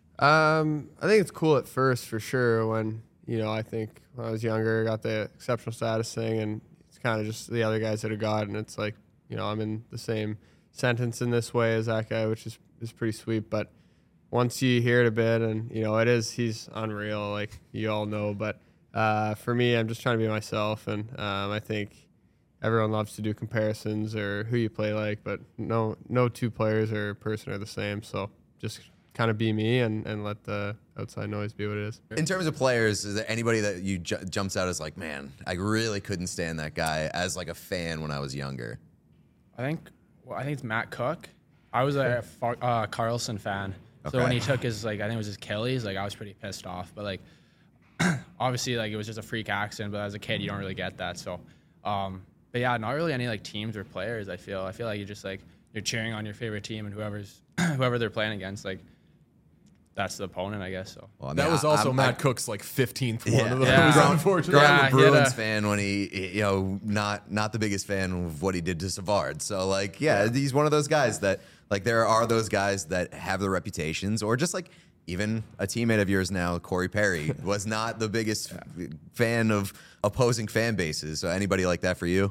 Um, I think it's cool at first for sure. When you know, I think when I was younger, I got the exceptional status thing, and it's kind of just the other guys that have got, and it's like you know, I'm in the same sentence in this way as that guy, which is is pretty sweet. But once you hear it a bit, and you know, it is he's unreal, like you all know. But uh, for me, I'm just trying to be myself, and um, I think everyone loves to do comparisons or who you play like, but no, no two players or person are the same. So just kind of be me and, and let the outside noise be what it is. In terms of players, is there anybody that you ju- jumps out as like, man, I really couldn't stand that guy as like a fan when I was younger? I think well, I think it's Matt Cook. I was a Far- uh, Carlson fan, so Okay. when he took his like I think it was his Achilles, like I was pretty pissed off. But like obviously like it was just a freak accident. But as a kid, you don't really get that. So, um, but yeah, not really any like teams or players. I feel I feel like you just like you're cheering on your favorite team and whoever's whoever they're playing against, like. That's the opponent, I guess. So Well, I mean, That was I- also I'm- Matt I- Cook's like fifteenth Yeah. one of those, Yeah. unfortunately. Growing Yeah, up a he had Bruins a- fan when he, you know, not not the biggest fan of what he did to Savard. So like, yeah, he's one of those guys that like there are those guys that have the reputations, or just like even a teammate of yours now, Corey Perry, was not the biggest fan of opposing fan bases. So anybody like that for you?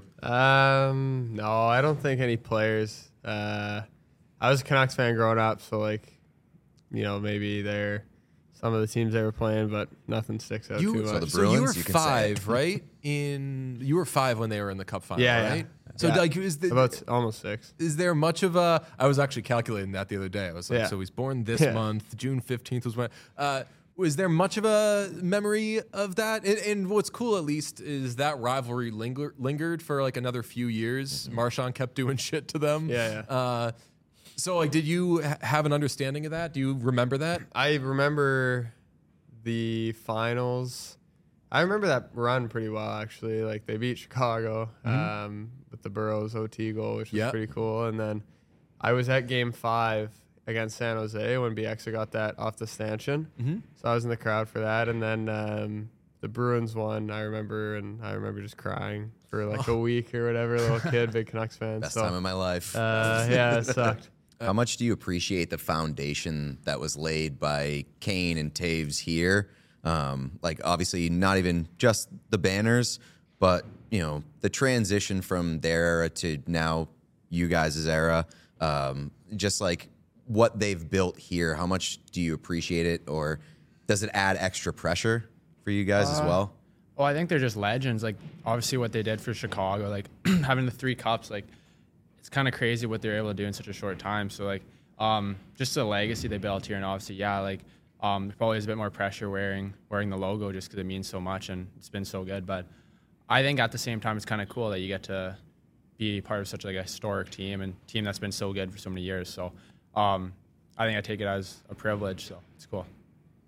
Um, no, I don't think any players. Uh, I was a Canucks fan growing up, so like, you know, maybe they're some of the teams they were playing, but nothing sticks out You, too so much. the so you were Bruins, you can say it. five, right? In you were five when they were in the Cup final, Yeah, yeah. right? So Yeah. like, is the, About s- almost six. is there much of a? I was actually calculating that the other day. I was like, Yeah. so he's born this Yeah. month. June fifteenth was when. Uh, was there much of a memory of that? And, and what's cool, at least, is that rivalry linger, lingered for like another few years. Marchand kept doing shit to them. Yeah, yeah. Uh, so like, did you ha- have an understanding of that? Do you remember that? I remember the finals. I remember that run pretty well, actually. Like they beat Chicago um, with the Burrows O T goal, which was Yep. pretty cool. And then I was at Game Five against San Jose when B X got that off the stanchion. Mm-hmm. So I was in the crowd for that. And then um, the Bruins won, I remember, and I remember just crying for like a week or whatever. Little kid, big Canucks fan. Best so, time of my life. uh, yeah, it sucked. How much do you appreciate the foundation that was laid by Kane and Taves here? Um, like obviously not even just the banners, but you know the transition from their era to now you guys' era. Um, just like what they've built here. How much do you appreciate it, or does it add extra pressure for you guys as well? Well, I think they're just legends. Like obviously what they did for Chicago, like having the three cups, like it's kind of crazy what they're able to do in such a short time. So like um, just the legacy they built here, and obviously yeah, like um, there probably is a bit more pressure wearing wearing the logo just because it means so much and it's been so good. But I think at the same time it's kind of cool that you get to be part of such like a historic team and team that's been so good for so many years. So um, I think I take it as a privilege. So it's cool.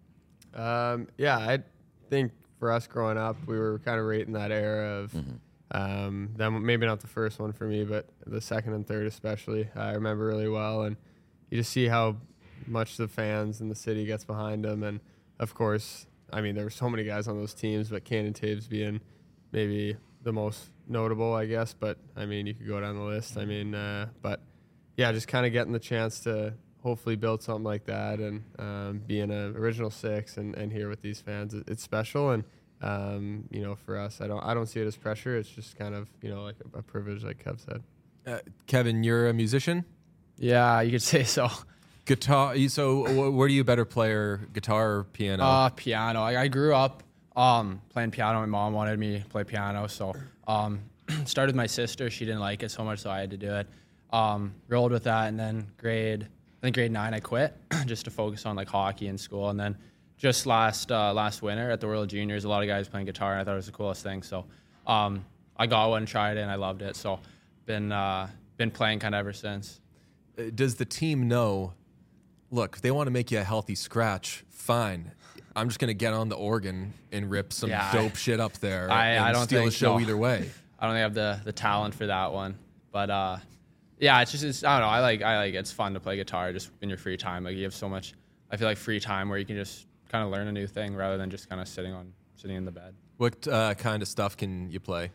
Um, yeah, I think for us growing up, we were kind of right in that era of Um, then maybe not the first one for me, but the second and third especially, I remember really well. And you just see how much the fans and the city gets behind him. And of course, I mean, there were so many guys on those teams, but Kane and Taves being maybe the most notable, I guess. But I mean, you could go down the list. I mean, uh, but yeah, just kind of getting the chance to hopefully build something like that and um, being an original six and, and here with these fans, it, it's special. And um, you know, for us, I don't I don't see it as pressure. It's just kind of, you know, like a, a privilege, like Kev said. Uh, Kevin, you're a musician? Yeah, you could say so. Guitar. So wh- where do you better player, guitar or piano? Uh, piano. I, I grew up um, playing piano. My mom wanted me to play piano, so um, started with my sister. She didn't like it so much, so I had to do it. Um, rolled with that, and then grade, I think grade nine, I quit just to focus on like hockey in school. And then just last uh, last winter at the World Juniors, a lot of guys playing guitar, and I thought it was the coolest thing. So um, I got one, tried it, and I loved it. So been uh, been playing kind of ever since. Uh, Does the team know? Look, if they want to make you a healthy scratch, fine. I'm just gonna get on the organ and rip some Yeah, dope I- shit up there I, and I don't steal think a show so. either way. I don't think I have the, the talent for that one, but uh, yeah, it's just it's, I don't know. I like I like it's fun to play guitar just in your free time. Like you have so much. I feel like free time where you can just kind of learn a new thing rather than just kind of sitting on sitting in the bed. What uh, kind of stuff can you play?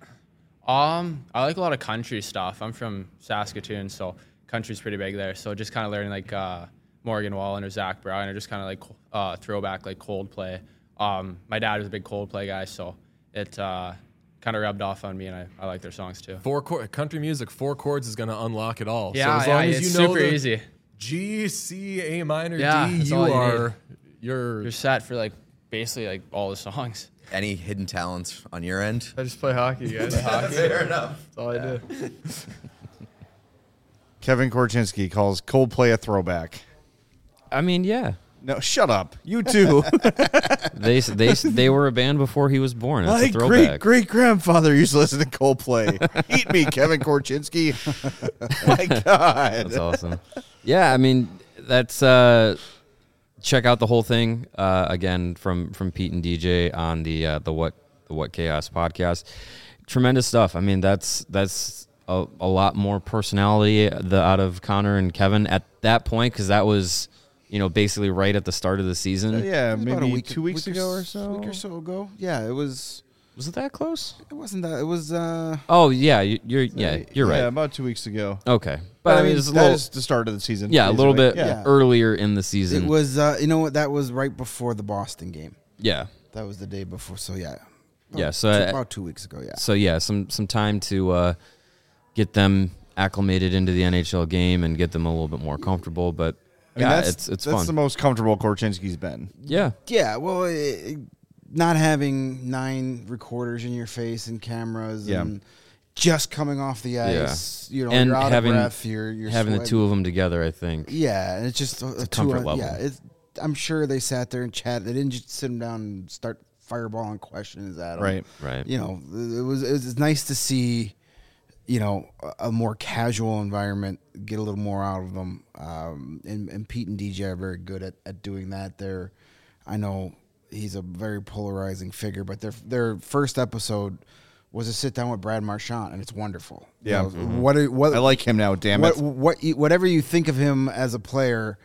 Um, I like a lot of country stuff. I'm from Saskatoon, so country's pretty big there. So just kind of learning like uh, Morgan Wallen or Zach Bryan or just kind of like uh, throwback like Coldplay. Um, my dad was a big Coldplay guy, so it uh, kind of rubbed off on me, and I, I like their songs too. Four chord, country music, four chords is going to unlock it all. Yeah, so as yeah, long as it's you know super the easy. G, C, A minor, Yeah, D, that's you all you are need. you're You're set for like basically like all the songs. Any hidden talents on your end? I just play hockey, guys. Fair enough. That's all I do. Kevin Korchinski calls Coldplay a throwback. I mean, yeah. No, shut up. You too. They they they were a band before he was born. That's My a throwback. great great grandfather used to listen to Coldplay. Eat me, Kevin Korchinski. My God. That's awesome. Yeah, I mean, that's uh, check out the whole thing uh, again from from Pete and D J on the uh, the what the What Chaos podcast. Tremendous stuff. I mean, that's that's a, a lot more personality the out of Connor and Kevin at that point, because that was, you know, basically right at the start of the season. Uh, yeah, It was maybe about a week, two weeks week ago or s- so. week or so ago. Yeah, it was. Was it that close? It wasn't that. It was. uh Oh yeah, you, you're yeah you're Yeah, right. about two weeks ago. Okay, But I mean, it's a that little, is the start of the season. yeah, a little bit basically. Yeah. earlier in the season. It was. uh You know what? That was right before the Boston game. yeah. That was the day before. So yeah. About Yeah, so two, I- about two weeks ago. Yeah. So yeah, some some time to uh, get them acclimated into the N H L game and get them a little bit more comfortable. But I mean, yeah, that's, it's it's that's fun. the most comfortable Korchinski's been. yeah, Yeah. Well, it, not having nine recorders in your face and cameras Yeah. and just coming off the ice. You know, and you're out having of breath. You're, you're having the sweating. two of them together, I think. Yeah, and it's just a, It's a two comfort on- level. Yeah, it's, I'm sure they sat there and chatted. They didn't just sit them down and start fireballing questions at them. Right. Right. You know, it was it was nice to see, you know, a, a more casual environment, get a little more out of them. Um, and, and Pete and D J are very good at, at doing that. They're, I know he's a very polarizing figure, but their their first episode was a sit down with Brad Marchand, and it's wonderful. You Yeah. know, Mhm. what are- what I like him now, damn what, it. what you- whatever you think of him as a player,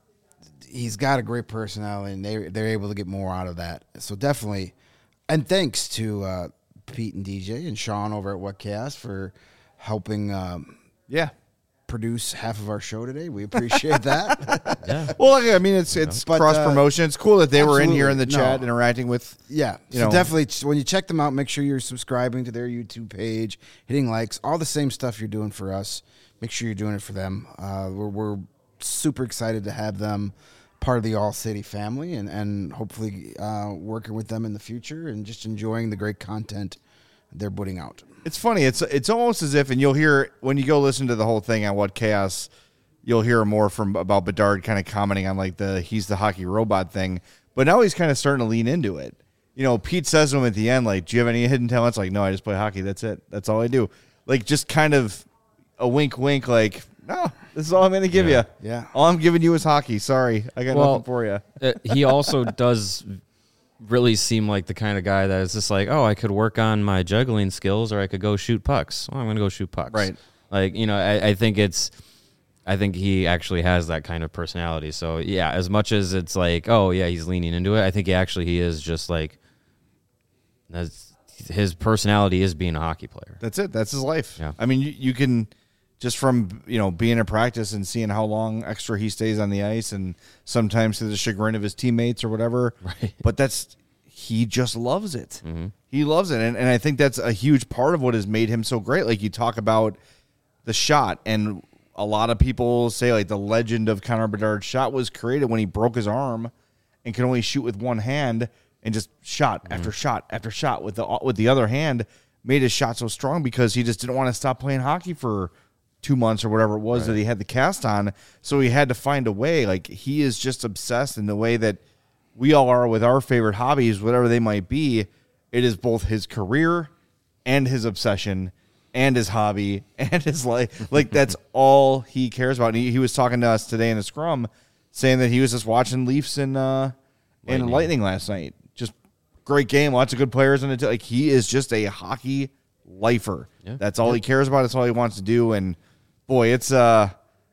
he's got a great personality, and they they're able to get more out of that. So definitely, and thanks to uh, Pete and D J and Sean over at What Chaos for helping um, Yeah. produce half of our show today. We appreciate that. Yeah. Well, I mean, it's it's But, cross uh, promotion. It's cool that they were in here in the absolutely. chat No. interacting with. Yeah, You so know. definitely ch- when you check them out, make sure you're subscribing to their YouTube page, hitting likes, all the same stuff you're doing for us. Make sure you're doing it for them. Uh, we're, we're super excited to have them part of the All City family, and and hopefully uh, working with them in the future, and just enjoying the great content they're putting out. It's funny. It's it's almost as if, and you'll hear when you go listen to the whole thing on What Chaos, you'll hear more from about Bedard kind of commenting on like the he's the hockey robot thing. But now he's kind of starting to lean into it. You know, Pete says to him at the end, like, "Do you have any hidden talents?" Like, "No, I just play hockey. That's it. That's all I do." Like, just kind of a wink, wink. Like, no, this is all I'm going to give Yeah. you. Yeah. All I'm giving you is hockey. Sorry, I got Well, nothing for you. Uh, he also does really seem like the kind of guy that is just like, oh, I could work on my juggling skills or I could go shoot pucks. Well, I'm going to go shoot pucks. Right. Like, you know, I, I think it's, I think he actually has that kind of personality. So, yeah, as much as it's like, oh, yeah, he's leaning into it, I think he actually he is just like, that's, his personality is being a hockey player. That's it. That's his life. Yeah. I mean, you, you can just from, you know, being in practice and seeing how long extra he stays on the ice and sometimes to the chagrin of his teammates or whatever. Right. But that's, he just loves it. Mm-hmm. He loves it. And, and I think that's a huge part of what has made him so great. Like you talk about the shot, and a lot of people say like the legend of Connor Bedard's shot was created when he broke his arm and could only shoot with one hand and just shot Mm-hmm. after shot after shot with the, with the other hand, made his shot so strong because he just didn't want to stop playing hockey for two months or whatever it was Right. that he had the cast on. So he had to find a way. Like he is just obsessed in the way that we all are with our favorite hobbies, whatever they might be. It is both his career and his obsession and his hobby and his life. Like that's all he cares about. And he, he was talking to us today in the scrum saying that he was just watching Leafs and, uh, and Lightning. Lightning last night. Just great game. Lots of good players in it. Like he is just a hockey lifer. Yeah. That's all he cares about. That's all he wants to do. And boy, it's uh,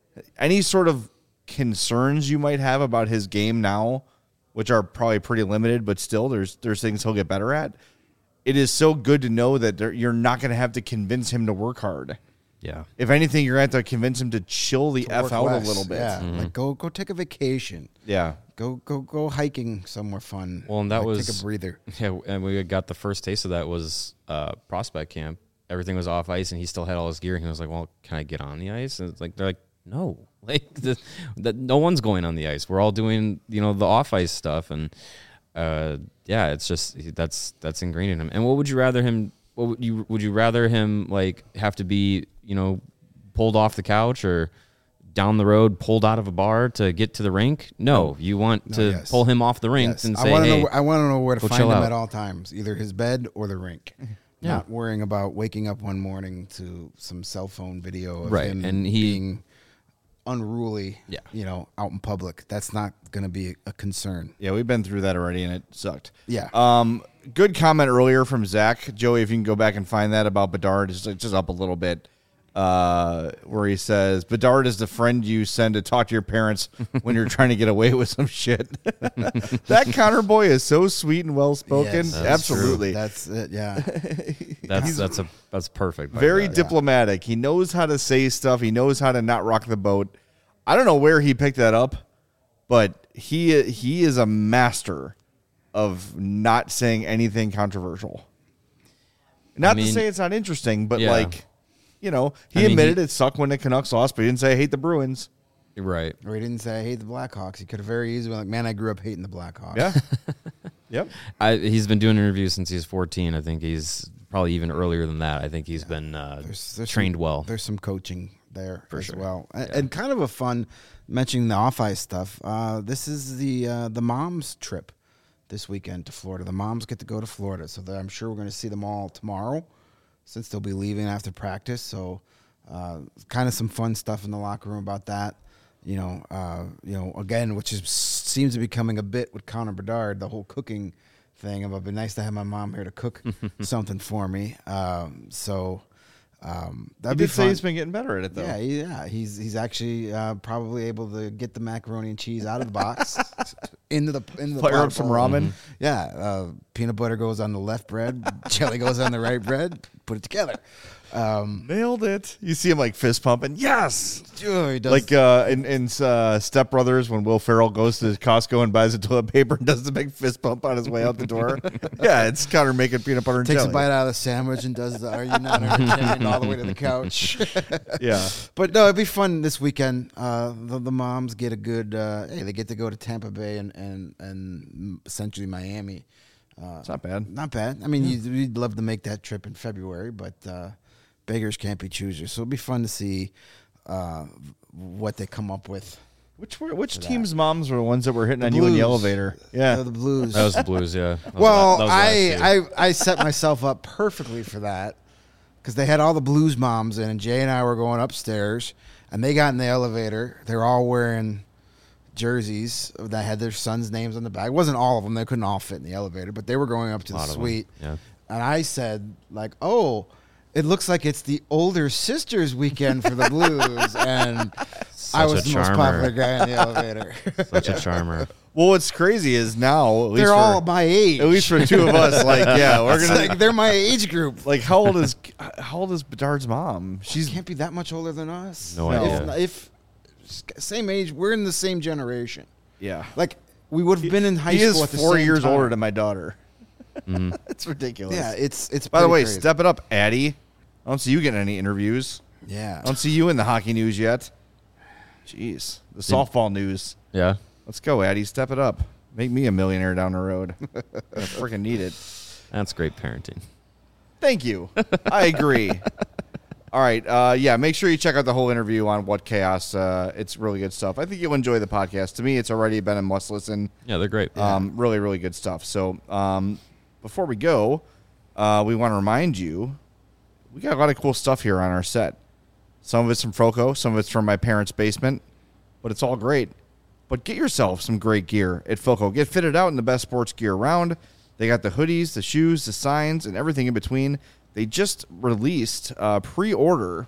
any sort of concerns you might have about his game now, which are probably pretty limited, but still there's there's things he'll get better at. It is so good to know that there, you're not going to have to convince him to work hard. Yeah. If anything, you're going to have to convince him to chill the F Work out less. a little bit. Yeah, Mm-hmm. like go go take a vacation. Yeah. Go go go hiking somewhere fun. Well, and that Like, was take a breather. Yeah, and we got the first taste of that was uh, prospect camp. Everything was off ice, and he still had all his gear. And he was like, "Well, can I get on the ice?" And it's like they're like, "No, like the, the, no one's going on the ice. We're all doing you know the off ice stuff." And uh, yeah, it's just that's that's ingrained in him. And what would you rather him? What would you would you rather him like have to be you know pulled off the couch or down the road pulled out of a bar to get to the rink? No, you want No, to yes. pull him off the rink Yes. and I say, want to "Hey, know. I want to know where to go find chill him out." at all times, either his bed or the rink. Yeah. Not worrying about waking up one morning to some cell phone video of Right, him and he- being unruly. Yeah. you know, out in public. That's not going to be a concern. Yeah, we've been through that already, and it sucked. Yeah. Um, good comment earlier from Zach. Joey, if you can go back and find that about Bedard, it's just up a little bit, uh, where he says, Bedard is the friend you send to talk to your parents when you're trying to get away with some shit. That Connor boy is so sweet and well-spoken. Yes, that's Absolutely. That's it. Yeah. That's that's a that's perfect. by Very that. diplomatic. He knows how to say stuff. He knows how to not rock the boat. I don't know where he picked that up, but he he is a master of not saying anything controversial. Not mean- to say it's not interesting, but Yeah. like, you know, he I mean, admitted he- it sucked when the Canucks lost, but he didn't say I hate the Bruins. Right. Or he didn't say I hate the Blackhawks. He could have very easily been like, man, I grew up hating the Blackhawks. Yeah. Yep. I, he's been doing interviews since he's fourteen. I think he's probably even earlier than that. I think he's been uh, There's, there's trained some, well. There's some coaching there For as sure. well, and, and kind of a fun mentioning the off ice stuff. Uh, this is the uh, the moms trip this weekend to Florida. The moms get to go to Florida, so that I'm sure we're going to see them all tomorrow, since they'll be leaving after practice. So, uh, kind of some fun stuff in the locker room about that. You know, uh, you know, again, which is seems to be becoming a bit with Connor Bedard, the whole cooking thing. It would be nice to have my mom here to cook something for me. Um, so. Um, He that'd be did say fun. he's been getting better at it, though. Yeah, he- yeah, he's he's actually uh, probably able to get the macaroni and cheese out of the box into the into the Fire pot up some bowl. ramen. Yeah, uh, peanut butter goes on the left bread, jelly goes on the right bread. Put it together. Um, Nailed it. You see him like fist pumping. Yes. oh, he does, Like uh, in, in uh, Step Brothers, when Will Ferrell goes to Costco and buys a toilet paper and does the big fist pump on his way out the door. Yeah, it's Connor making peanut butter and takes jelly. a bite out of the sandwich and does the "Are you not entertained?" all the way to the couch. Yeah. But no, it'd be fun this weekend. Uh, the, the moms get a good. Uh, hey, they get to go to Tampa Bay and and and essentially Miami. Uh, It's not bad. Not bad. I mean, you'd, you'd love to make that trip in February, but uh, beggars can't be choosers. So it'll be fun to see uh, what they come up with. Which were which for that. team's moms were the ones that were hitting The on you in the Blues. elevator? Yeah. Uh, the Blues. That was the Blues, yeah. That was Well, la- that was last I, year. I I set myself up perfectly for that because they had all the Blues moms in, and Jay and I were going upstairs, and they got in the elevator. They're all wearing jerseys that had their sons' names on the back. It wasn't all of them. They couldn't all fit in the elevator, but they were going up to A the lot of them, suite. yeah. And I said, like, oh, it looks like it's the older sisters weekend for the Blues. And I Such was a the most charmer. popular guy in the elevator. Such a charmer. Well, what's crazy is now, at least They're for, all my age. At least for two of us, like, yeah, we're It's gonna. like they're my age group. Like, how old is how old is Bedard's mom? She's Can't be that much older than us. No If- idea. If, same age, we're in the same generation. yeah. Like we would have been in high he school is at the four same years time. older than my daughter. Mhm. It's ridiculous. Yeah, it's it's. By the pretty way, crazy. step it up, Addie. I don't see you getting any interviews. Yeah. I don't see you in the hockey news yet. Jeez, the softball news. Yeah. Let's go, Addie. Step it up. Make me a millionaire down the road. I freaking need it. That's great parenting. Thank you. I agree. All right. Uh, yeah, make sure you check out the whole interview on What Chaos. Uh, it's really good stuff. I think you'll enjoy the podcast. To me, it's already been a must listen. Yeah, they're great. Um, really, really good stuff. So um, before we go, uh, we want to remind you, we got a lot of cool stuff here on our set. Some of it's from Foco, some of it's from my parents' basement, but it's all great. But get yourself some great gear at Foco. Get fitted out in the best sports gear around. They got the hoodies, the shoes, the signs, and everything in between. They just released uh, pre-order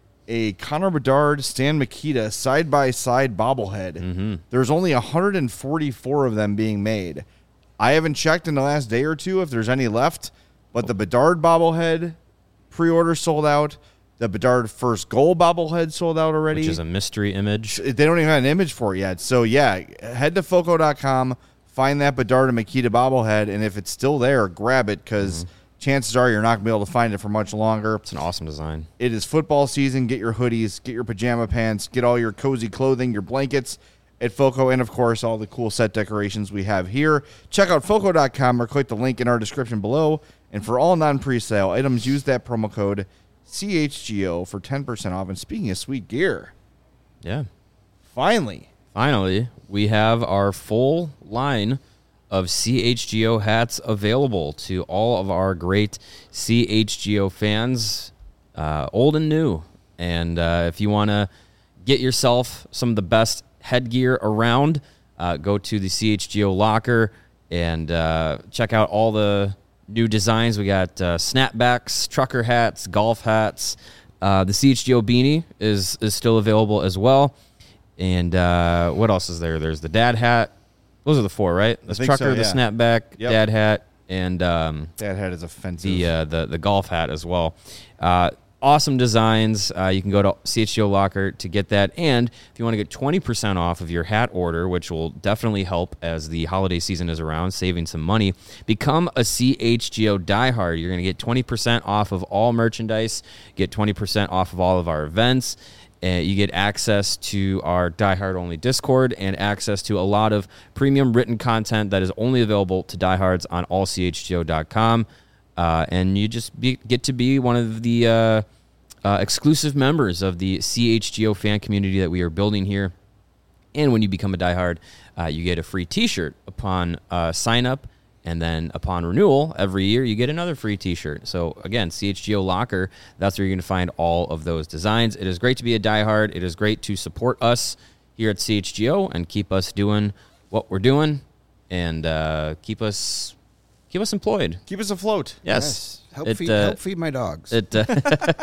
a Connor Bedard, Stan Mikita side-by-side bobblehead. Mm-hmm. There's only one hundred forty-four of them being made. I haven't checked in the last day or two if there's any left, but the Bedard bobblehead pre-order sold out. The Bedard first goal bobblehead sold out already. Which is a mystery image. They don't even have an image for it yet. So, yeah, head to Foco dot com, find that Bedard and Mikita bobblehead, and if it's still there, grab it because Mm-hmm. chances are you're not going to be able to find it for much longer. It's an awesome design. It is football season. Get your hoodies, get your pajama pants, get all your cozy clothing, your blankets at Foco, and, of course, all the cool set decorations we have here. Check out Foco dot com or click the link in our description below. And for all non-presale items, use that promo code C H G O for ten percent off. And speaking of sweet gear, Yeah. finally, Finally, we have our full line of C H G O hats available to all of our great C H G O fans, uh, old and new. And uh, if you want to get yourself some of the best headgear around, uh, go to the C H G O locker and uh, check out all the new designs. We got uh, snapbacks, trucker hats, golf hats. Uh, the C H G O beanie is is still available as well. And uh, what else is there? There's the dad hat. Those are the four, right? The think trucker, so, the yeah. snapback, Yep. dad hat, and um, that hat is offensive. the uh, the the golf hat as well. Uh, awesome designs. Uh, you can go to C H G O Locker to get that. And if you want to get twenty percent off of your hat order, which will definitely help as the holiday season is around, saving some money, become a C H G O diehard. You're going to get twenty percent off of all merchandise, get twenty percent off of all of our events. Uh, you get access to our diehard only Discord and access to a lot of premium written content that is only available to diehards on all C H G O dot com. Uh, and you just be, get to be one of the uh, uh, exclusive members of the C H G O fan community that we are building here. And when you become a diehard, uh, you get a free T-shirt upon uh, sign up. And then upon renewal, every year, you get another free T-shirt. So, again, C H G O Locker, that's where you're going to find all of those designs. It is great to be a diehard. It is great to support us here at C H G O and keep us doing what we're doing and uh, keep us keep us employed. Keep us afloat. Yes. Help, It, feed, uh, help feed my dogs. It, uh,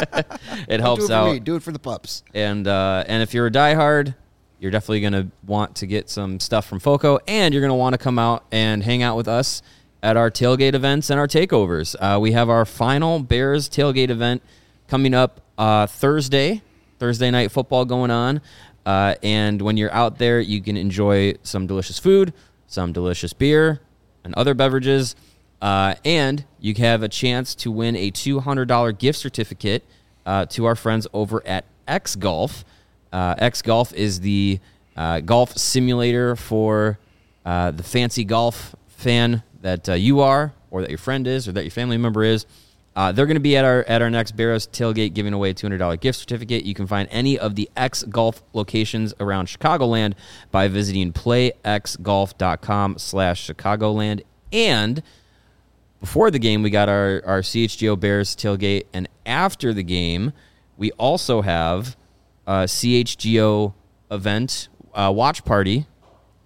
it helps do it for out. me. Do it for the pups. And uh, and if you're a diehard, you're definitely going to want to get some stuff from Foco, and you're going to want to come out and hang out with us at our tailgate events and our takeovers. Uh, we have our final Bears tailgate event coming up uh, Thursday, Thursday night football going on. Uh, and when you're out there, you can enjoy some delicious food, some delicious beer, and other beverages. Uh, and you have a chance to win a two hundred dollars gift certificate uh, to our friends over at X Golf. Uh, X Golf is the uh, golf simulator for uh, the fancy golf fan that uh, you are, or that your friend is, or that your family member is. Uh, they're going to be at our at our next Barrows tailgate giving away a two hundred dollars gift certificate. You can find any of the X Golf locations around Chicagoland by visiting playxgolf.com slash Chicagoland. And before the game, we got our, our C H G O Bears tailgate. And after the game, we also have a C H G O event uh, watch party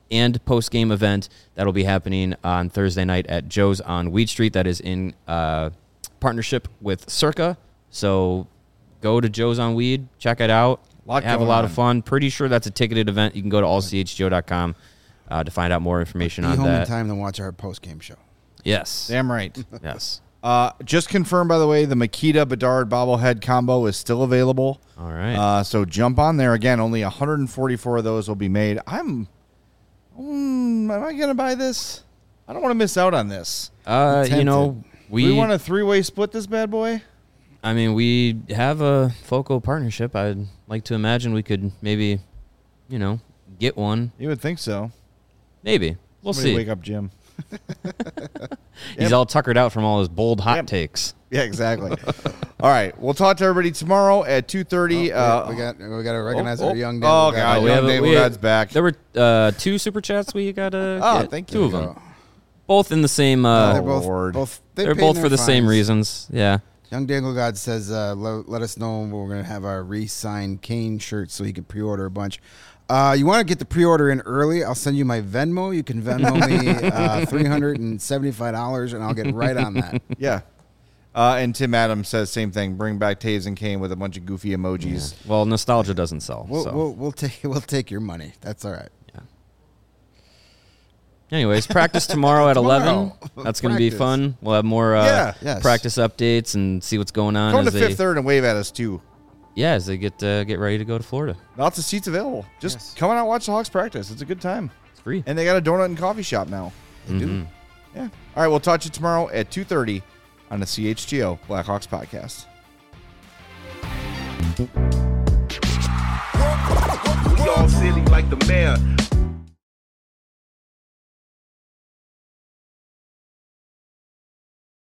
and post-game event that'll be happening on Thursday night at Joe's on Weed Street. That is in uh, partnership with Circa. So go to Joe's on Weed, check it out, Lot have a going lot on. of fun. Pretty sure that's a ticketed event. You can go to all c h g o dot com uh, to find out more information Be on home in that. time to watch our post game show. Yes. Damn right. Yes. Uh, just confirmed, by the way, the Makita Bedard bobblehead combo is still available. All right. Uh, so jump on there. Again, only one hundred forty-four of those will be made. I'm, mm, am I going to buy this? I don't want to miss out on this. Uh, you know, we, we want a three-way split this bad boy? I mean, we have a FOCO partnership. I'd like to imagine we could maybe, you know, get one. You would think so. Maybe. We'll Somebody see. wake up Jim. He's Yep. all tuckered out from all his bold hot Yep. takes. Yeah, exactly. All right. We'll talk to everybody tomorrow at two thirty. Oh, uh, we got we got to recognize oh, our young. oh, Daniel God. guy. we Young have a- Dave we God's had- back. There were uh, two super chats we got to Oh, get. thank Two you. of them. Both in the same. Oh, Uh, they're both, Lord. both they're paid both their for the same fines. reasons. Yeah. Young Dangle God says, uh, lo- let us know when we're going to have our re-signed Kane shirts so he can pre-order a bunch. Uh, you want to get the pre-order in early? I'll send you my Venmo. You can Venmo me uh, three hundred seventy-five dollars, and I'll get right on that. Yeah. Uh, and Tim Adams says same thing. Bring back Taves and Kane with a bunch of goofy emojis. Well, nostalgia doesn't sell. We'll, so. we'll, we'll, take, we'll take your money. That's all right. Anyways, practice tomorrow at Tomorrow. eleven. That's going to be Practice. fun. We'll have more uh, Yeah. Yes. practice updates and see what's going on. Come to as they, Fifth Third and wave at us, too. Yeah, as they get uh, get ready to go to Florida. Lots of seats available. Just Yes. come on out and watch the Hawks practice. It's a good time. It's free. And they got a donut and coffee shop now. They do. Mhm. Yeah. All right. We'll talk to you tomorrow at two thirty on the C H G O Blackhawks podcast. We all silly like the mayor.